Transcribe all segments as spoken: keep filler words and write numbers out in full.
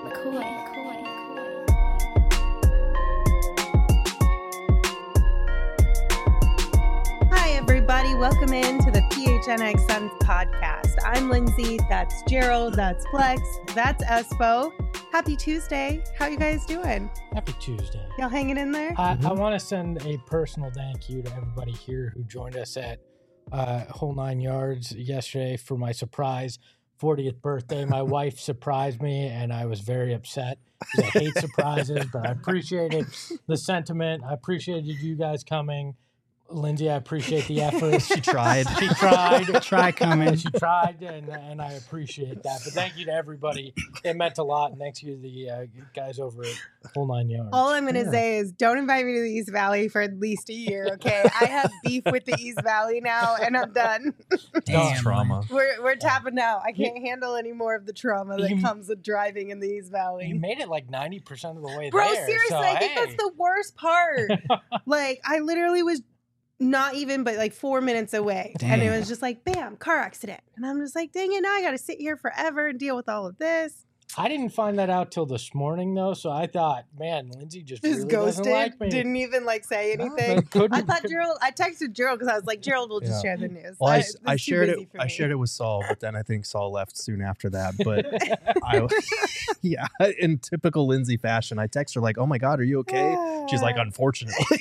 McCoy. McCoy. Hi, everybody. Welcome in to the P H N X Suns podcast. I'm Lindsay. That's Gerald. That's Flex. That's Espo. Happy Tuesday. How you guys doing? Happy Tuesday. Y'all hanging in there? I, Mm-hmm. I want to send a personal thank you to everybody here who joined us at uh, Whole Nine Yards yesterday for my surprise fortieth birthday. My wife surprised me, and I was very upset because I hate surprises, but I appreciated the sentiment. I appreciated you guys coming. Lindsay, I appreciate the effort. She tried. She tried. Try coming. She tried, and and I appreciate that. But thank you to everybody. It meant a lot, and thanks to the uh, guys over at Whole Nine Yards. All I'm going to Yeah. say is don't invite me to the East Valley for at least a year, okay? I have beef with the East Valley now, and I'm done. Damn, trauma. We're we're tapping out. I can't handle any more of the trauma that You- comes with driving in the East Valley. You made it like ninety percent of the way Bro, there. seriously, so, I think hey. that's the worst part. Like, I literally was not even but like four minutes away. And it Damn. was just like, bam, car accident. And I'm just like, dang it, now I got to sit here forever and deal with all of this. I didn't find that out till this morning, though, so I thought, man, Lindsay just, Just really ghosted. doesn't like me. Didn't even like say No, anything. but couldn't- I thought could- Gerald, I texted Gerald because I was like, Gerald will just Yeah. share the news. Well, I, it's I too shared busy it. for I me. shared it with Saul, but then I think Saul left soon after that. But I, yeah, in typical Lindsay fashion, I text her like, "Oh my God, are you okay?" She's like, "Unfortunately."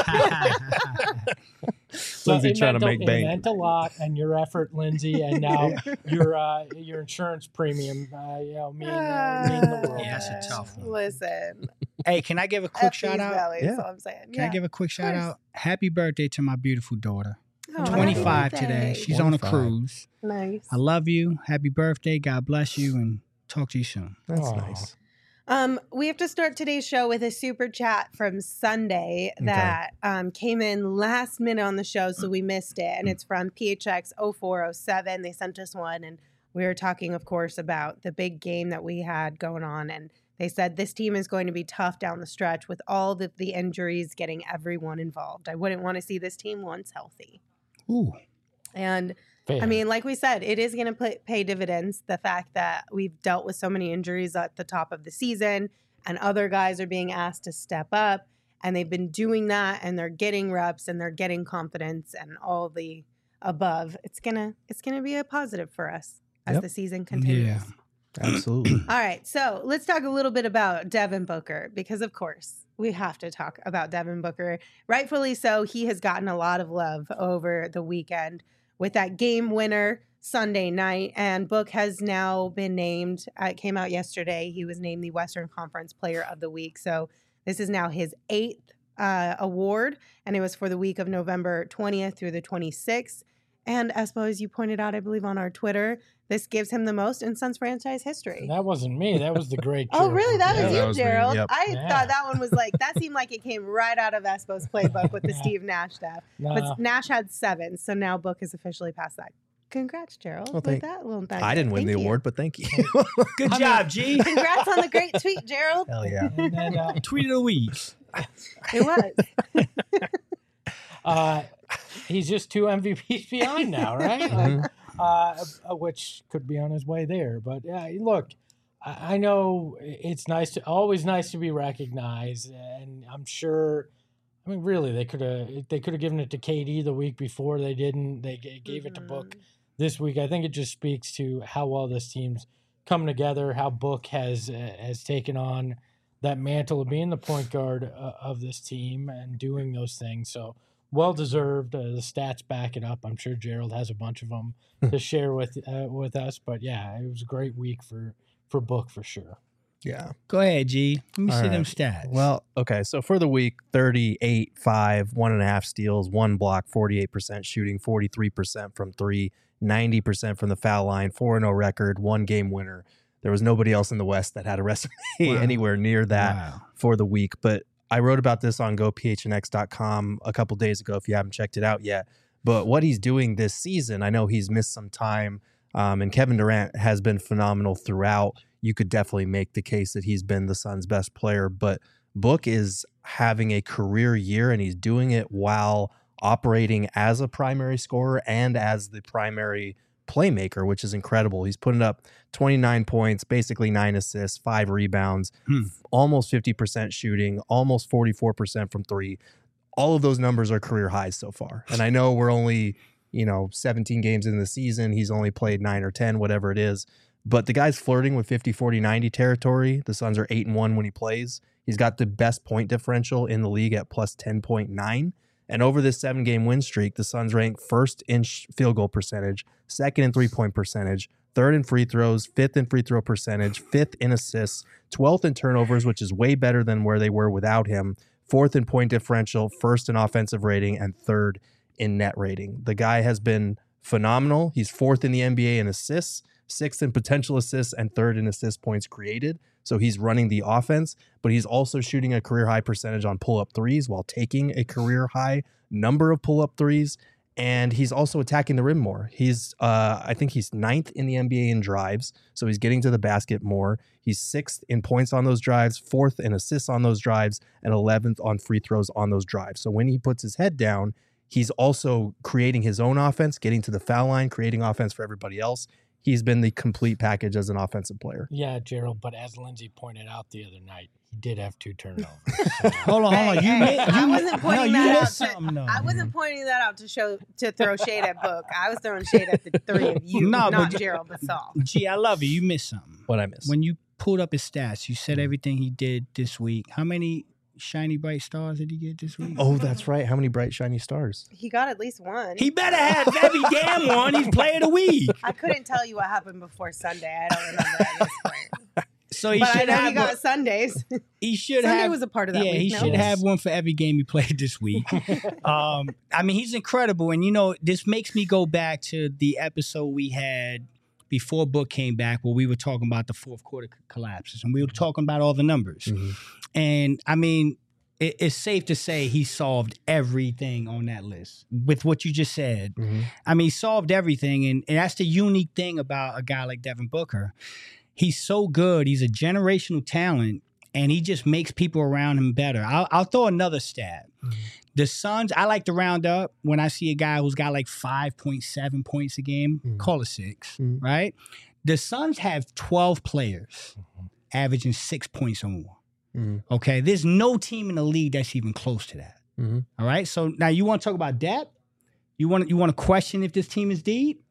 So Lindsay it trying to meant make a, bank. It meant a lot, and your effort, Lindsay, and now your uh, your insurance premium, uh, you know, mean, uh, mean the world. Yeah, that's a tough one. Listen. Hey, can I give a quick F shout East out? Valley, Yeah. That's all I'm saying. Can yeah. I give a quick shout course. out? Happy birthday to my beautiful daughter. Oh, happy twenty-five birthday. today. She's on a twenty-five. cruise. Nice. I love you. Happy birthday. God bless you, and talk to you soon. That's Aw. nice. Um, we have to start today's show with a super chat from Sunday Okay. that um, came in last minute on the show, so we missed it. And it's from P H X oh four oh seven. They sent us one, and we were talking, of course, about the big game that we had going on. And they said this team is going to be tough down the stretch with all the, the injuries getting everyone involved. I wouldn't want to see this team once healthy. Ooh. And Fair. I mean, like we said, it is going to pay dividends. The fact that we've dealt with so many injuries at the top of the season and other guys are being asked to step up and they've been doing that and they're getting reps and they're getting confidence and all the above. It's going to it's going to be a positive for us as Yep. the season continues. Yeah. Absolutely. All right, so let's talk a little bit about Devin Booker because, of course, we have to talk about Devin Booker. Rightfully so, he has gotten a lot of love over the weekend with that game winner Sunday night. And Book has now been named, uh, it came out yesterday, he was named the Western Conference Player of the Week. So this is now his eighth uh, award, and it was for the week of November twentieth through the twenty-sixth. And as as you pointed out, I believe on our Twitter, this gives him the most in Suns franchise history. That wasn't me. That was the great. Oh, Gerald. really? That Yeah, was that you, was me. Gerald. Yep. I Yeah. thought that one was like, that seemed like it came right out of Espo's playbook with the Yeah. Steve Nash stuff. No. But Nash had seven, so now Book is officially past that. Congrats, Gerald. Well, with thank- that little nugget. I didn't win Thank the you. award, but thank you. Good I mean- job, G. Congrats on the great tweet, Gerald. Hell yeah. And then, uh, Tweet of the week. It was. uh, he's just two M V Ps behind now, right? Mhm. Like, uh, uh, which could be on his way there. But yeah, look, I I know it's nice to always nice to be recognized, and I'm sure. I mean, really, they could have they could have given it to K D the week before. They didn't. They g- gave it to Book Mhm. this week. I think it just speaks to how well this team's come together. How Book has uh, has taken on that mantle of being the point guard uh, of this team and doing those things. So well deserved. Uh, the stats back it up. I'm sure Gerald has a bunch of them to share with uh, with us. But yeah, it was a great week for for Book for sure. Yeah. Go ahead, G. Let me All see right. them stats. Well, okay. So for the week, thirty-eight, five, one and a half steals, one block, forty-eight percent shooting, forty-three percent from three, ninety percent from the foul line, four and oh record, one game winner. There was nobody else in the West that had a resume Wow. anywhere near that Wow. for the week. But I wrote about this on go p h n x dot com a couple days ago if you haven't checked it out yet. But what he's doing this season, I know he's missed some time, um, and Kevin Durant has been phenomenal throughout. You could definitely make the case that he's been the Suns' best player, but Book is having a career year, and he's doing it while operating as a primary scorer and as the primary playmaker, which is incredible. He's putting up twenty-nine points, basically nine assists, five rebounds, Hmm. almost fifty percent shooting, almost forty-four percent from three. All of those numbers are career highs so far. And I know we're only, you know, seventeen games in the season. He's only played nine or ten, whatever it is. But the guy's flirting with fifty, forty, ninety territory. The Suns are eight and one when he plays. He's got the best point differential in the league at plus ten point nine. And over this seven-game win streak, the Suns rank first in sh- field goal percentage, second in three-point percentage, third in free throws, fifth in free throw percentage, fifth in assists, twelfth in turnovers, which is way better than where they were without him, fourth in point differential, first in offensive rating, and third in net rating. The guy has been phenomenal. He's fourth in the N B A in assists, sixth in potential assists, and third in assist points created. So he's running the offense, but he's also shooting a career high percentage on pull-up threes while taking a career high number of pull-up threes. And he's also attacking the rim more. He's, uh, I think he's ninth in the N B A in drives, so he's getting to the basket more. He's sixth in points on those drives, fourth in assists on those drives, and eleventh on free throws on those drives. So when he puts his head down, he's also creating his own offense, getting to the foul line, creating offense for everybody else. He's been the complete package as an offensive player. Yeah, Gerald, but as Lindsay pointed out the other night, he did have two turnovers. So. Hold on, hold on. You, Hey, mi- hey, you I mi- wasn't no, pointing you that out missed to- something, though. I wasn't pointing that out to show to throw shade at Book. I was throwing shade at the three of you, No, not but- Gerald Basal. Gee, I love you. You missed something. What I missed. When you pulled up his stats, you said everything he did this week. How many shiny bright stars did he get this week? Oh, that's right. How many bright, shiny stars? He got at least one. He better have every damn one. He's player of the week. I couldn't tell you what happened before Sunday. I don't remember at this point. So he But I should know have. he got one- Sundays. he should Sunday have. was a part of that yeah, week. he no? should have one for every game he played this week. um, I mean, he's incredible, and you know, this makes me go back to the episode we had before Book came back, where we were talking about the fourth quarter c- collapses, and we were talking about all the numbers. Mhm. And I mean, it, it's safe to say he solved everything on that list with what you just said. Mhm. I mean, he solved everything, and, and that's the unique thing about a guy like Devin Booker. He's so good. He's a generational talent, and he just makes people around him better. I'll, I'll throw another stat. Mhm. The Suns, I like to round up when I see a guy who's got like five point seven points a game, Mhm. call it six, Mhm. right? The Suns have twelve players averaging six points or more. Mhm. Okay, there's no team in the league that's even close to that. Mhm. All right, so now you want to talk about depth? You want you want to question if this team is deep?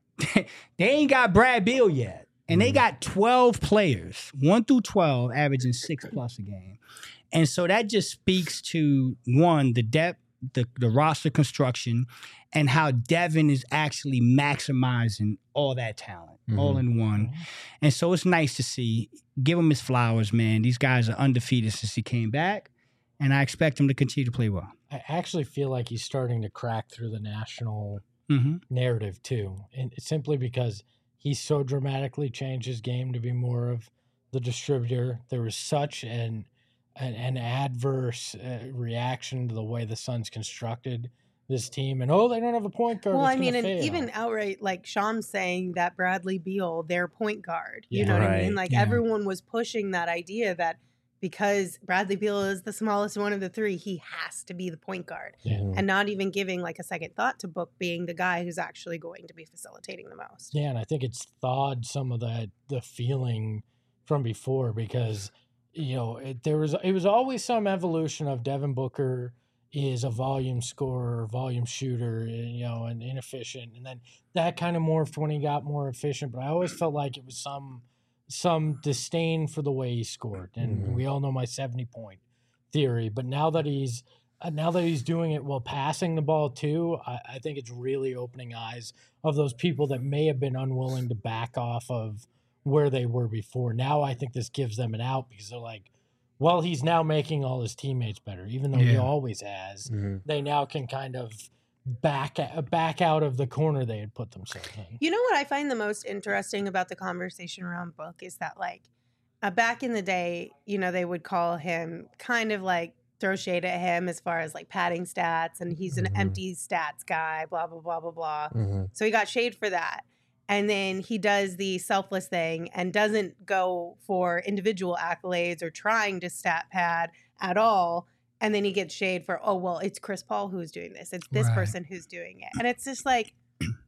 They ain't got Brad Beal yet, and they Mhm. got twelve players, one through twelve, averaging six plus a game, and so that just speaks to one the depth, the the roster construction, and how Devin is actually maximizing all that talent, all in one. And so it's nice to see. Give him his flowers, man. These guys are undefeated since he came back, and I expect him to continue to play well. I actually feel like he's starting to crack through the national Mm-hmm. narrative too, and it's simply because he's so dramatically changed his game to be more of the distributor. There was such an an, an adverse uh, reaction to the way the Suns constructed this team, and oh, they don't have a point guard. Well, it's I mean, gonna and fail. even outright, like Sham saying that Bradley Beal, their point guard. You Yeah. know what I Right. mean? Like Yeah. everyone was pushing that idea that because Bradley Beal is the smallest one of the three, he has to be the point guard, Yeah. Mhm. and not even giving like a second thought to Book being the guy who's actually going to be facilitating the most. Yeah, and I think it's thawed some of that the feeling from before because you know it, there was it was always some evolution of Devin Booker is a volume scorer, volume shooter, and, you know, and inefficient, and then that kind of morphed when he got more efficient. But I always felt like it was some some disdain for the way he scored, and Mhm. we all know my seventy point theory. But now that he's uh, now that he's doing it while passing the ball too, I, I think it's really opening eyes of those people that may have been unwilling to back off of where they were before. Now I think this gives them an out because they're like, well, he's now making all his teammates better, even though he Yeah. always has. Mhm. They now can kind of back back out of the corner they had put themselves in. You know what I find the most interesting about the conversation around Book is that like uh, back in the day, you know, they would call him kind of like throw shade at him as far as like padding stats, and he's an Mhm. empty stats guy, blah blah blah blah blah. Mhm. So he got shade for that. And then he does the selfless thing and doesn't go for individual accolades or trying to stat pad at all. And then he gets shade for, oh, well, it's Chris Paul who's doing this. It's this Right. person who's doing it. And it's just like,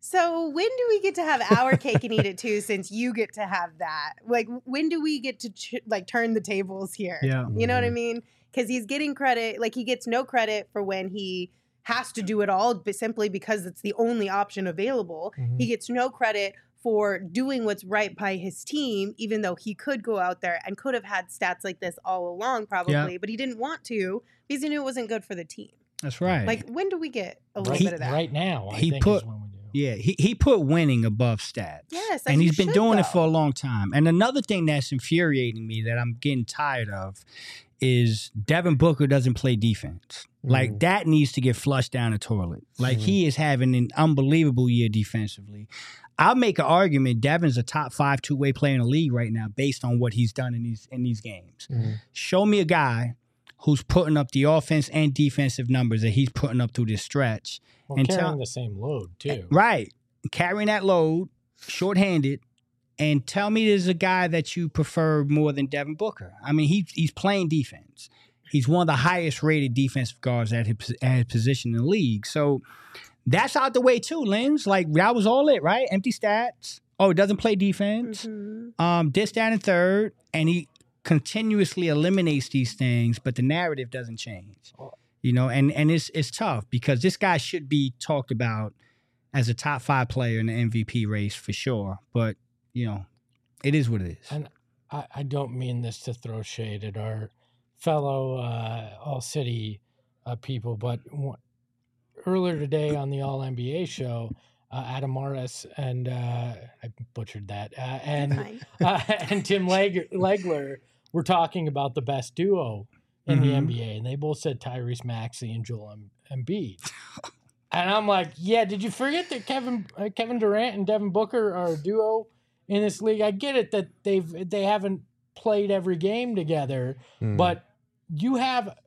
So when do we get to have our cake and eat it too? Since you get to have that, like, when do we get to ch- like turn the tables here? Yeah. You know what I Mhm. mean? Because he's getting credit, like he gets no credit for when he has to do it all, but simply because it's the only option available. Mhm. He gets no credit for doing what's right by his team, even though he could go out there and could have had stats like this all along, probably, but he didn't want to because he knew it wasn't good for the team. That's right. Like, when do we get a little Right, bit of that? right now, I He think put- is when we do. Yeah, he, he put winning above stats. Yes, and he he's been should, doing it though. for a long time. And another thing that's infuriating me that I'm getting tired of is Devin Booker doesn't play defense. Like Mhm. that needs to get flushed down the toilet. Like Mhm. he is having an unbelievable year defensively. I'll make an argument Devin's a top five two-way player in the league right now based on what he's done in these in these games. Mhm. Show me a guy who's putting up the offense and defensive numbers that he's putting up through this stretch. Well, and carrying tell- the same load too. Right. Carrying that load, shorthanded, and tell me there's a guy that you prefer more than Devin Booker. I mean, he, he's playing defense. He's one of the highest rated defensive guards at his, at his position in the league. So that's out the way too, Lens. Like, that was all it, right? Empty stats. Oh, doesn't play defense. Mhm. Um, this, down, and third. And he continuously eliminates these things, but the narrative doesn't change. You know, and, and it's it's tough because this guy should be talked about as a top five player in the M V P race for sure. But, you know, it is what it is. And I, I don't mean this to throw shade at our fellow uh, All City uh, people, but w- earlier today on the All N B A show, uh, Adam Morris and uh, I butchered that, uh, and Fine. uh, and Tim Leg- Legler were talking about the best duo in the Mhm. N B A, and they both said Tyrese Maxey and Joel Em- Embiid. And I'm like, yeah, did you forget that Kevin uh, Kevin Durant and Devin Booker are a duo in this league? I get it that they've they haven't played every game together, Mm. but you have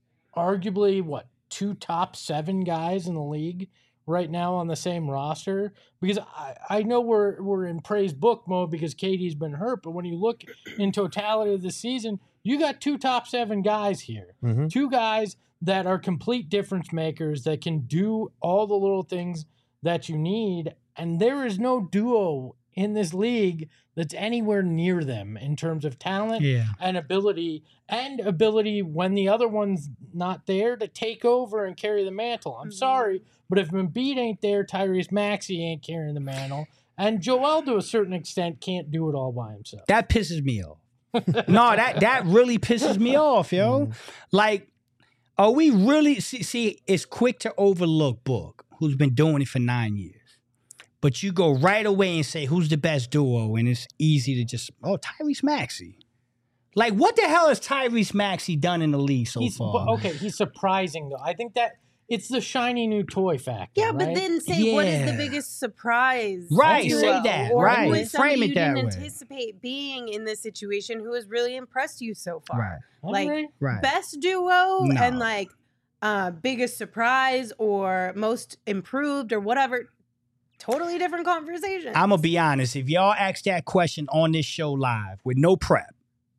arguably what two top seven guys in the league right now on the same roster. Because I, I know we're we're in praise book mode because K D's been hurt, but when you look in totality of the season, you got two top seven guys here. Mhm. Two guys that are complete difference makers that can do all the little things that you need. And there is no duo in this league that's anywhere near them in terms of talent Yeah. and ability, and ability when the other one's not there to take over and carry the mantle. I'm Mhm. sorry, but if Embiid ain't there, Tyrese Maxey ain't carrying the mantle. And Joel, to a certain extent, can't do it all by himself. That pisses me off. No, that that really pisses me off, yo. Mhm. Like, are we really see, see? It's quick to overlook Book, who's been doing it for nine years, but you go right away and say who's the best duo, and it's easy to just oh Tyrese Maxey. Like, what the hell has Tyrese Maxey done in the league so he's, far? but, okay, he's surprising, though. I think that it's the shiny new toy factor. Yeah, but right? then say what is Yeah. the biggest surprise? Right, duo? say that, Or right. who is Frame somebody it you that didn't way. anticipate being in this situation who has really impressed you so far. Right, All like, right. right. Best duo No. and like uh biggest surprise or most improved or whatever. Totally different conversation. I'm gonna be honest. If y'all ask that question on this show live with no prep,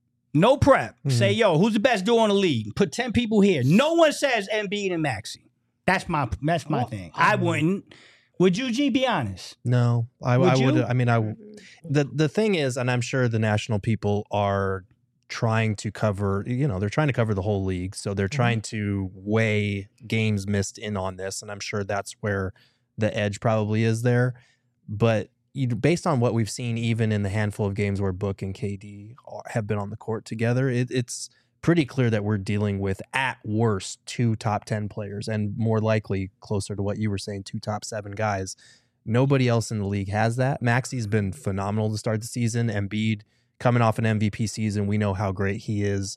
no prep, Mhm. say yo, who's the best duo in the league? Put ten people here. No one says Embiid and Maxey. That's my that's my Well, thing. I I mean- wouldn't. Would you, G? Be honest. No, I Would I you? would. I mean, I Mhm. the the thing is, and I'm sure the national people are trying to cover. You know, they're trying to cover the whole league, so they're trying to weigh games missed in on this, and I'm sure that's where the edge probably is there. But you, based on what we've seen, even in the handful of games where Book and K D are, have been on the court together, it, it's pretty clear that we're dealing with, at worst, two top ten players, and more likely, closer to what you were saying, two top seven guys. Nobody else in the league has that. Maxey's been phenomenal to start the season. Embiid coming off an M V P season, we know how great he is.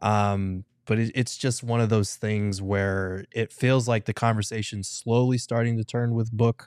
Um, but it, it's just one of those things where it feels like the conversation's slowly starting to turn with Book.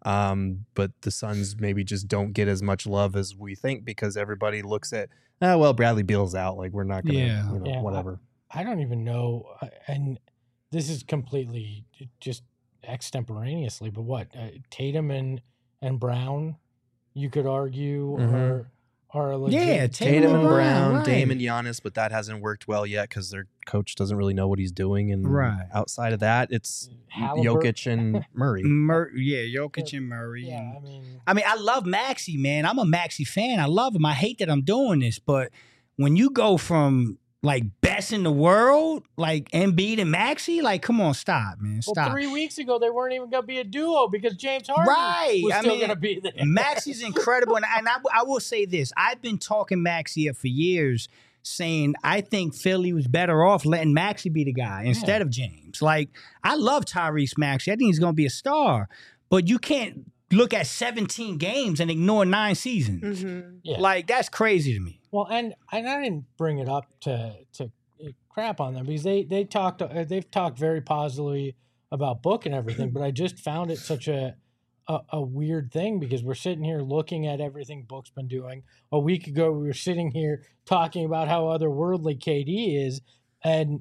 Um, but the Suns maybe just don't get as much love as we think because everybody looks at, oh, well, Bradley Beal's out. Like, we're not going to, Yeah. you know, Yeah, I- whatever. I don't even know, uh, and this is completely just extemporaneously, but what uh, Tatum and and Brown, you could argue, Mhm. are are a legit. Yeah, Tatum Tatum and and Brown, Brown, Dame right. and Giannis, but that hasn't worked well yet because their coach doesn't really know what he's doing. And Right. outside of that, it's Halliburton. Jokic and Murray. Mur- yeah, Jokic and Murray. Yeah, and- I mean, I mean, I love Maxey, man. I'm a Maxey fan. I love him. I hate that I'm doing this, but when you go from like best in the world, like Embiid and Maxey, like come on, stop, man, well, stop. three weeks ago they weren't even going to be a duo because James Harden Right. was I still mean, going to be there. Maxey's incredible, and, and I, I will say this: I've been talking Maxey up for years, saying I think Philly was better off letting Maxey be the guy instead of James. Like I love Tyrese Maxey. I think he's going to be a star, but you can't look at seventeen games and ignore nine seasons. Mhm. Yeah. Like that's crazy to me. Well, and, and I didn't bring it up to to crap on them because they they talked uh, they've talked very positively about Book and everything, but I just found it such a, a a weird thing because we're sitting here looking at everything Book's been doing. A week ago, we were sitting here talking about how otherworldly K D is, and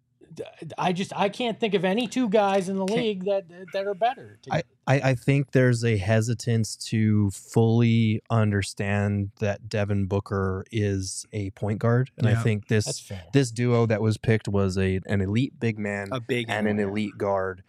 I just I can't think of any two guys in the league that that are better. I, I, I think there's a hesitance to fully understand that Devin Booker is a point guard, and I Yeah. think That's this fair. this duo that was picked was a an elite big man A big and an one. elite guard,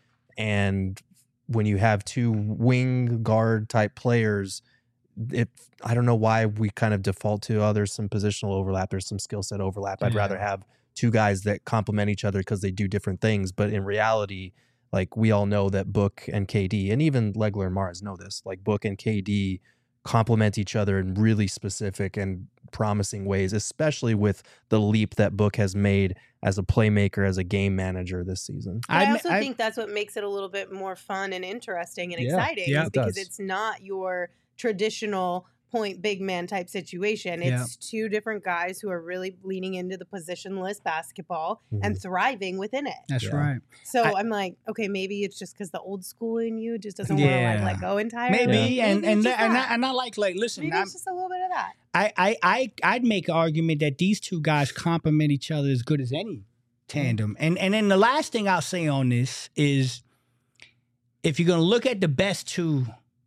and when you have two wing guard type players, it I don't know why we kind of default to oh there's some positional overlap, there's some skill set overlap. I'd Yeah. rather have two guys that complement each other because they do different things, but in reality, like we all know that Book and K D, and even Legler and Mars know this, like Book and K D complement each other in really specific and promising ways, especially with the leap that Book has made as a playmaker, as a game manager this season. But I, I- also I- think that's what makes it a little bit more fun and interesting and Yeah. exciting Yeah, is it because does. it's not your traditional point big man type situation. It's Yeah. two different guys who are really leaning into the positionless basketball Mhm. and thriving within it. That's Yeah. right. So I- I'm like, okay, maybe it's just because the old school in you just doesn't want to Yeah. like let go entirely. Maybe, and Maybe and it's that, just and, that. I, and I like like listen. Maybe I'm, it's just a little bit of that. I I I I'd make an argument that these two guys complement each other as good as any tandem. And and then the last thing I'll say on this is, if you're gonna look at the best two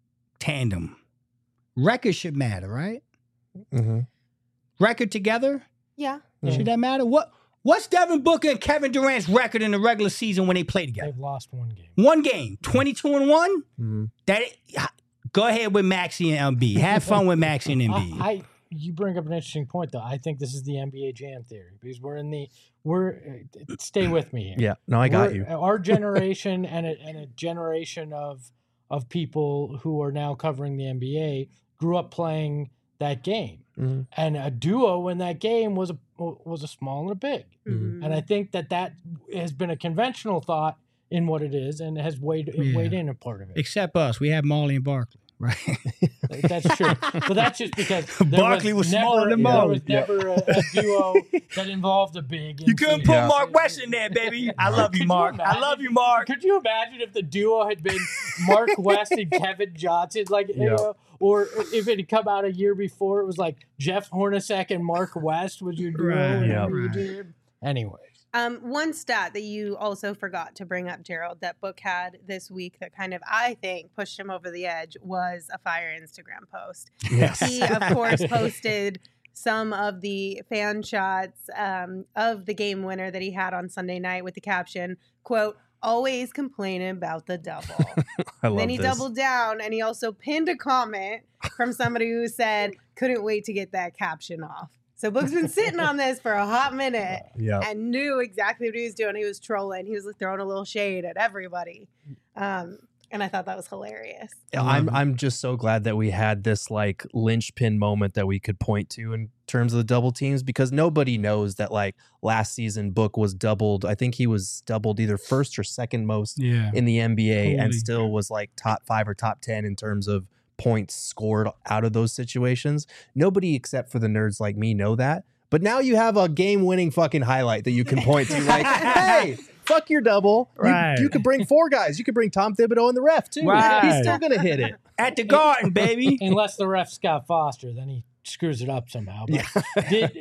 tandem, record should matter, right? Mm-hmm. Record together, Yeah. Mhm. should that matter? What what's Devin Booker and Kevin Durant's record in the regular season when they play together? They've lost one game. One game, twenty-two and one. Mm-hmm. That go ahead with Maxey and Embiid. Have fun with Maxey and Embiid. I, I you bring up an interesting point though. I think this is the N B A Jam theory because we're in the we're uh, stay with me here. Yeah, no, I got We're- you. Our generation and a, and a generation of of people who are now covering the N B A grew up playing that game, Mhm. and a duo in that game was a was a small and a big. Mhm. And I think that that has been a conventional thought in what it is, and has weighed Yeah. weighed in a part of it. Except us, we have Marley and Barkley, right? That's true, but that's just because there Barkley was never, smaller than there Marley. was never a, a duo that involved a big. You couldn't in- put Yeah. Mark West in there, baby. I love Could you, you Mark. I imagine? love you, Mark. Could you imagine if the duo had been Mark West and Kevin Johnson, like, you Yeah. know, or if it had come out a year before, it was like Jeff Hornacek and Mark West was your duo. Right, whenever you right. did. Anyways, Um, one stat that you also forgot to bring up, Gerald, that Book had this week that kind of, I think, pushed him over the edge was a fire Instagram post. Yes. He, of course, posted some of the fan shots um, of the game winner that he had on Sunday night with the caption, quote, always complaining about the double. I love Then he this. doubled down and he also pinned a comment from somebody who said, couldn't wait to get that caption off. So Book's been sitting on this for a hot minute Yeah. and knew exactly what he was doing. He was trolling. He was throwing a little shade at everybody. Um, and I thought that was hilarious. Yeah, I'm I'm just so glad that we had this like linchpin moment that we could point to in terms of the double teams, because nobody knows that like last season Book was doubled. I think he was doubled either first or second most Yeah. in the N B A and Holy. still was like top five or top ten in terms of points scored out of those situations. Nobody except for the nerds like me know that. But now you have a game-winning fucking highlight that you can point to. Like, hey, fuck your double. You- Right. You, could bring four guys. You could bring Tom Thibodeau and the ref too. Right. He's still gonna hit it. At the Garden, baby. unless the ref Scott Foster, then he screws it up somehow. But did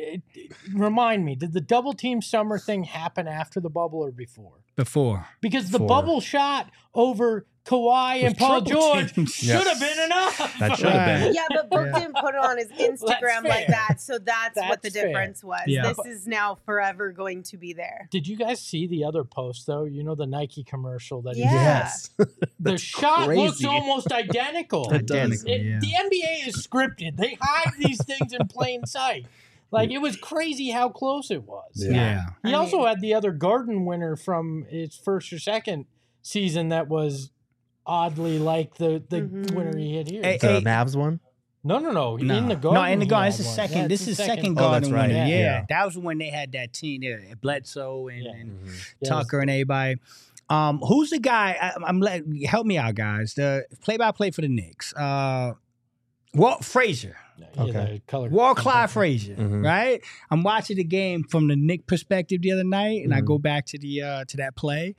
remind me, did the double team summer thing happen after the bubble or before? Before. Because the Before. bubble shot over Kawhi and Paul triple George team. should Yes. have been enough. That should have been. Yeah, but Book Yeah. didn't put it on his Instagram like fair. that, so that's, what the That's fair. difference was. Yeah. This is now forever going to be there. Did you guys see the other post though? You know the Nike commercial that he Yeah. did? Yes. The That's shot looks crazy. almost identical. It does. It- yeah. The N B A is scripted. They hide these things in plain sight. Like, it was crazy how close it was. Yeah. Yeah. He I also mean- had the other Garden winner from his first or second season that was oddly like the, the Mhm. winner he hit here. Hey, The hey, Mavs one? no, no, no. No. In the Garden. No, in the he Garden. had It's the one. second. Yeah, this it's is the second Oh, Garden that's right. winner. Yeah. Yeah. That was when they had that team there. Bledsoe and, Yeah. and Yeah, Tucker and everybody. Um, who's the guy? I, I'm let help me out, guys. The play-by-play for the Knicks. Uh, Walt Frazier. Yeah, Okay. the color. Walt Clyde Frazier, Mhm. right? I'm watching the game from the Knick perspective the other night, and I Mhm. go back to the uh, to that play.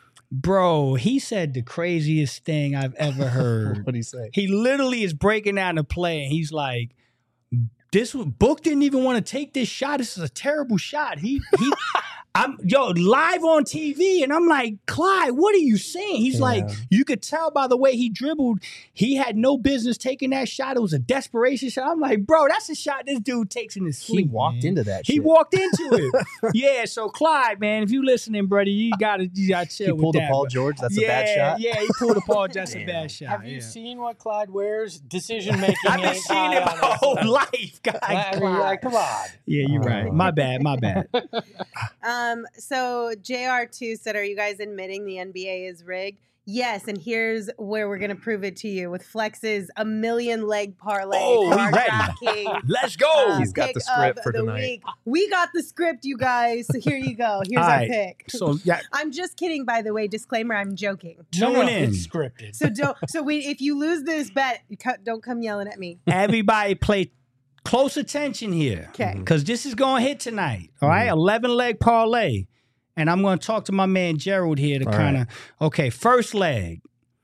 Bro, he said the craziest thing I've ever heard. What do you say? He literally is breaking down the play, and he's like, "This was, Book didn't even want to take this shot. This is a terrible shot." He he, I'm yo live on T V, and I'm like, "Clyde, what are you saying?" He's like, Yeah. "You could tell by the way he dribbled, he had no business taking that shot. It was a desperation shot." I'm like, "Bro, that's a shot this dude takes in his He sleep." walked man. into that He shit. walked into it. Yeah, so Clyde, man, if you listening, brother, you gotta you gotta chill He with pulled a that, Paul bro. George. That's yeah, a bad shot. Yeah, he pulled a Paul. That's a Damn. bad shot. Have you yeah. seen what Clyde wears? Decision making. I've been seeing it my whole life, guy. I mean, Clyde. like, come on. Yeah, you're right. Oh. My bad. My bad. Um, so J R two said, "Are you guys admitting the N B A is rigged?" Yes, and here's where we're gonna prove it to you with Flex's a million leg parlay. Oh, for we our ready. DraftKings, Let's go. uh, He's got pick the script of for the tonight. week. We got the script, you guys. So here you go. Here's All our right. pick. So yeah, I'm just kidding, by the way. Disclaimer: I'm joking. No, no, Tune in. it's scripted. So don't. So we, if you lose this bet, you co- don't come yelling at me. everybody play close attention here. Okay. Because this is going to hit tonight. All right. eleven leg parlay. And I'm going to talk to my man Gerald here to All kind of, okay, first leg.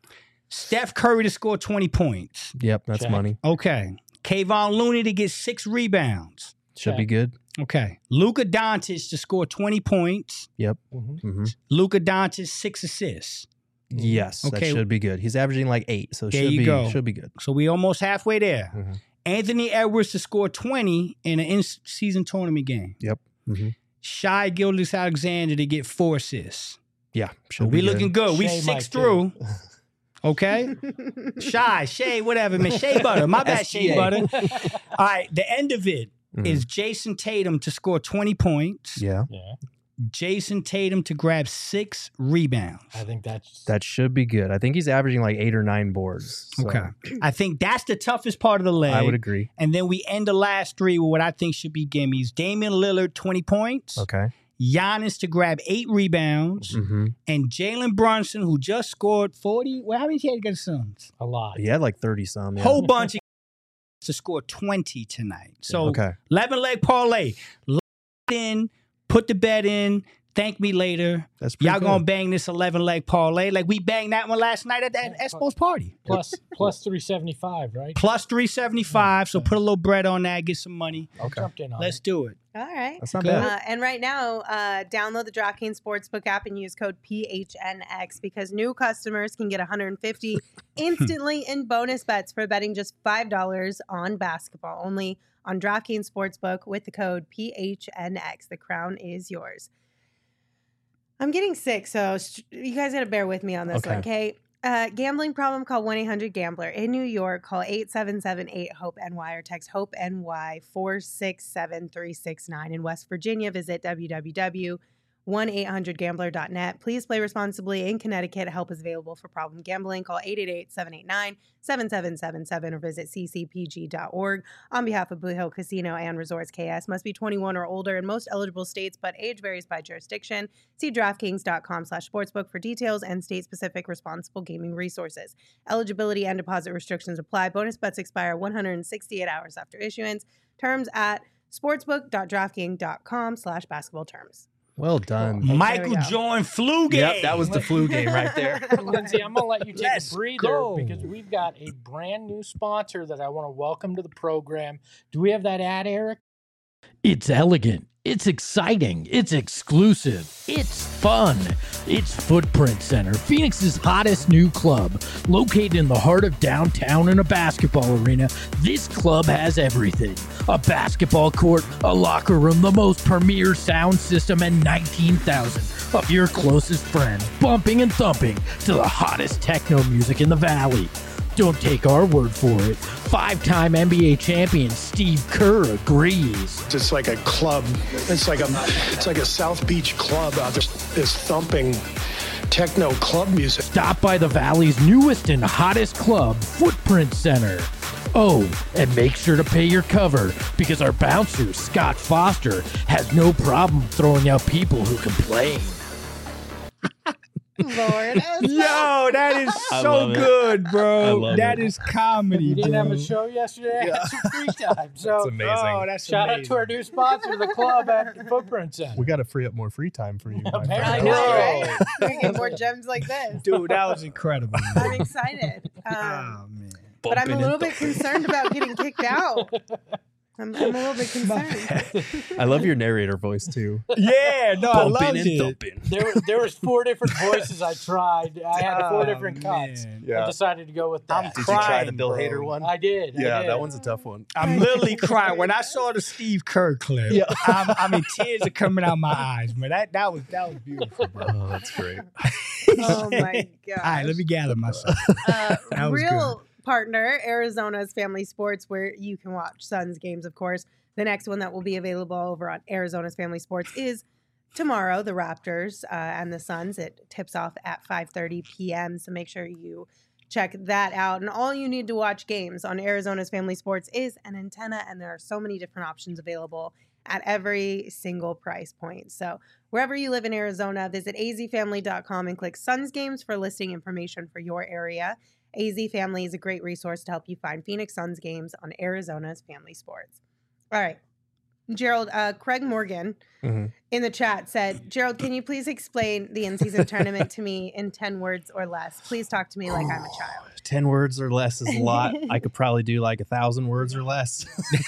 Steph Curry to score twenty points. Yep, that's Check. money. Okay. Kayvon Looney to get six rebounds. Should be Okay. good. Okay. Luka Doncic to score twenty points. Yep. Mhm. hmm Luka Doncic, six assists. Yes, Okay. that should be good. He's averaging like eight, so it There should you be go. should be good. So we almost halfway there. Mhm. Anthony Edwards to score twenty in an in-season tournament game. Yep. hmm Shai Gilgeous-Alexander to get four assists. Yeah, So should we be looking good. We Shea six might through. Okay. Shy, Shea, whatever, man. Shea Butter. My bad, S G Shea A. Butter. All right. The end of it Mhm. is Jason Tatum to score twenty points. Yeah, Yeah, Jason Tatum to grab six rebounds. I think that's that should be good. I think he's averaging like eight or nine boards. so Okay. I think that's the toughest part of the leg. I would agree. And then we end the last three with what I think should be gimmies. Damian Lillard, twenty points. Okay. Giannis to grab eight rebounds. hmm And Jalen Brunson, who just scored forty. Well, how many he had against Suns? a lot. He had like thirty some. Yeah. Whole bunch of to score twenty tonight. So Okay. eleven leg parlay. Lock it in, put the bet in, thank me later. That's pretty Y'all good. gonna bang this eleven leg parlay like we banged that one last night at that Espo's party. Plus plus three seventy five, right? Plus three seventy-five. So put a little bread on that, get some money. Okay. Jumped in on Let's it. do it. All right. That's not Good. bad. Uh, and right now, uh, download the DraftKings Sportsbook app and use code P H N X because new customers can get one hundred fifty instantly in bonus bets for betting just five dollars on basketball. Only on DraftKings Sportsbook with the code P H N X. The crown is yours. I'm getting sick, so st- you guys got to bear with me on this Okay. one, okay? Uh, gambling problem, call one eight hundred gambler. In New York, call eight seven seven eight hope N Y or text HOPE-NY four six seven three six nine. In West Virginia, visit w w w dot one eight hundred gambler dot net. Please play responsibly. In Connecticut, help is available for problem gambling. Call eight eight eight seven eight nine seven seven seven seven or visit c c p g dot org. On behalf of Blue Hill Casino and Resorts K S, must be twenty-one or older in most eligible states, but age varies by jurisdiction. See DraftKings.com slash sportsbook for details and state-specific responsible gaming resources. Eligibility and deposit restrictions apply. Bonus bets expire one hundred sixty-eight hours after issuance. Terms at sportsbook.draftkings.com slash basketball terms. Well done. There we Michael go. Jordan flu game. Yep, that was the flu game right there. Lindsay, I'm gonna let you take Let's a breather go. because we've got a brand new sponsor that I want to welcome to the program. Do we have that ad, Eric? It's elegant. It's exciting. It's exclusive. It's fun. It's Footprint Center, Phoenix's hottest new club. Located in the heart of downtown in a basketball arena, this club has everything. A basketball court, a locker room, the most premier sound system, and nineteen thousand of your closest friends bumping and thumping to the hottest techno music in the valley. Don't take our word for it. Five-time N B A champion Steve Kerr agrees. It's like a club. It's like a it's like a South Beach club out there. This thumping techno club music. Stop by the Valley's newest and hottest club, Footprint Center. Oh, and make sure to pay your cover because our bouncer, Scott Foster, has no problem throwing out people who complain. Lord. Yo, that is I so love it. good, I bro. love That it. is comedy, You didn't bro. have a show yesterday. I had some free time. So That's amazing. Oh, that's shout amazing. out to our new sponsor, the club at the Footprint Center. We got to free up more free time for you. my Apparently. I friend. know, Bro. right? We're gonna get more gems like this. Dude, that was incredible. I'm Man. excited. Um, Oh, man. but I'm a Bumping little and bit concerned about getting kicked out. I'm, I'm a little bit concerned. I love your narrator voice too. Yeah, no, I loved Bumping and it. thumping. There, was- there was four different voices I tried. I had four Oh, different cuts. man. I decided to go with that. I'm Did you try crying, the Bill bro. Hader one? I did. I Yeah, did. that one's a tough one. I'm literally crying when I saw the Steve Kerr clip. Yeah. I'm, I mean, tears are coming out my eyes, man. That that was that was beautiful, bro. Oh, that's great. Oh my god. All right, let me gather myself. Uh, That was real partner, Arizona's Family Sports, where you can watch Suns games, of course. The next one that will be available over on Arizona's Family Sports is tomorrow, the Raptors uh, and the Suns. It tips off at five thirty p.m., so make sure you check that out. And all you need to watch games on Arizona's Family Sports is an antenna, and there are so many different options available at every single price point. So wherever you live in Arizona, visit a z family dot com and click Suns Games for listing information for your area. A Z Family is a great resource to help you find Phoenix Suns games on Arizona's Family Sports. All right. Gerald, uh, Craig Morgan Mhm. in the chat said, Gerald, can you please explain the in-season tournament to me in ten words or less? Please talk to me like I'm a child. Ten words or less is a lot. I could probably do like a thousand words or less.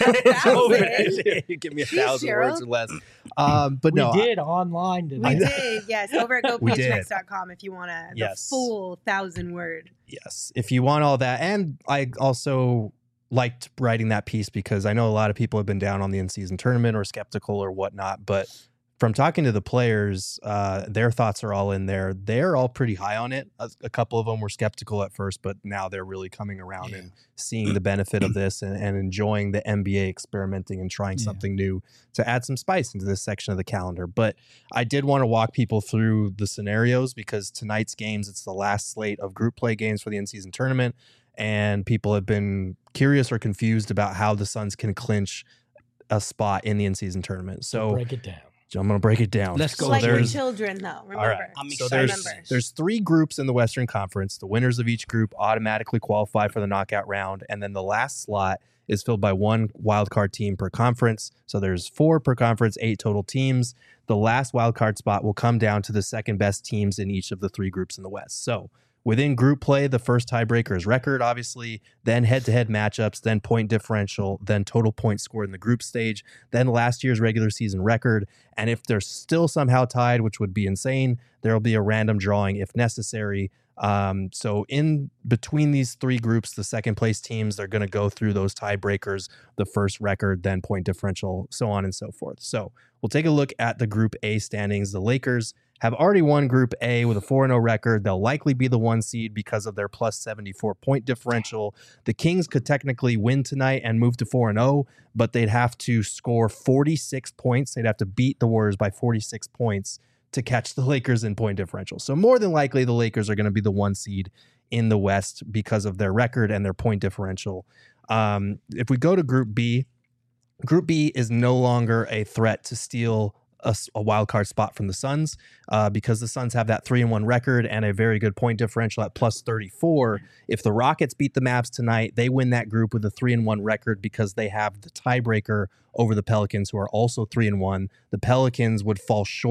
thousand? You give me a thousand Gerald. words or less. Um, but We no, I- did online We today. did, yes, over at go We p h n x did. dot com if you want to, the Yes. full thousand word. yes, if you want all that. And I also liked writing that piece because I know a lot of people have been down on the in-season tournament or skeptical or whatnot, but from talking to the players, uh, their thoughts are all in there. They're all pretty high on it. A, a couple of them were skeptical at first, but now they're really coming around Yeah. and seeing the benefit of this and, and enjoying the N B A experimenting and trying Yeah. something new to add some spice into this section of the calendar. But I did want to walk people through the scenarios because tonight's games, it's the last slate of group play games for the in-season tournament. And people have been curious or confused about how the Suns can clinch a spot in the in-season tournament. So Break it down. I'm going to break it down. Let's go. So like your there's, children, though. Remember. all right. I'm so excited. there's, Remember. there's three groups in the Western Conference. The winners of each group automatically qualify for the knockout round. And then the last slot is filled by one wildcard team per conference. So there's four per conference, eight total teams. The last wildcard spot will come down to the second best teams in each of the three groups in the West. So within group play, the first tiebreaker is record, obviously, then head-to-head matchups, then point differential, then total points scored in the group stage, then last year's regular season record. And if they're still somehow tied, which would be insane, there will be a random drawing if necessary. Um, so in between these three groups, the second place teams, they're going to go through those tiebreakers, the first record, then point differential, so on and so forth. So we'll take a look at the Group A standings. The Lakers have already won Group A with a four and oh record. They'll likely be the one seed because of their plus seventy-four point differential. The Kings could technically win tonight and move to four and oh, but they'd have to score forty-six points. They'd have to beat the Warriors by forty-six points to catch the Lakers in point differential. So more than likely, the Lakers are going to be the one seed in the West because of their record and their point differential. Um, if we go to Group B, Group B is no longer a threat to steal a, a wild card spot from the Suns uh, because the Suns have that three and one record and a very good point differential at plus thirty-four. If the Rockets beat the Mavs tonight, they win that group with a three and one record because they have the tiebreaker over the Pelicans, who are also three and one. The Pelicans would fall short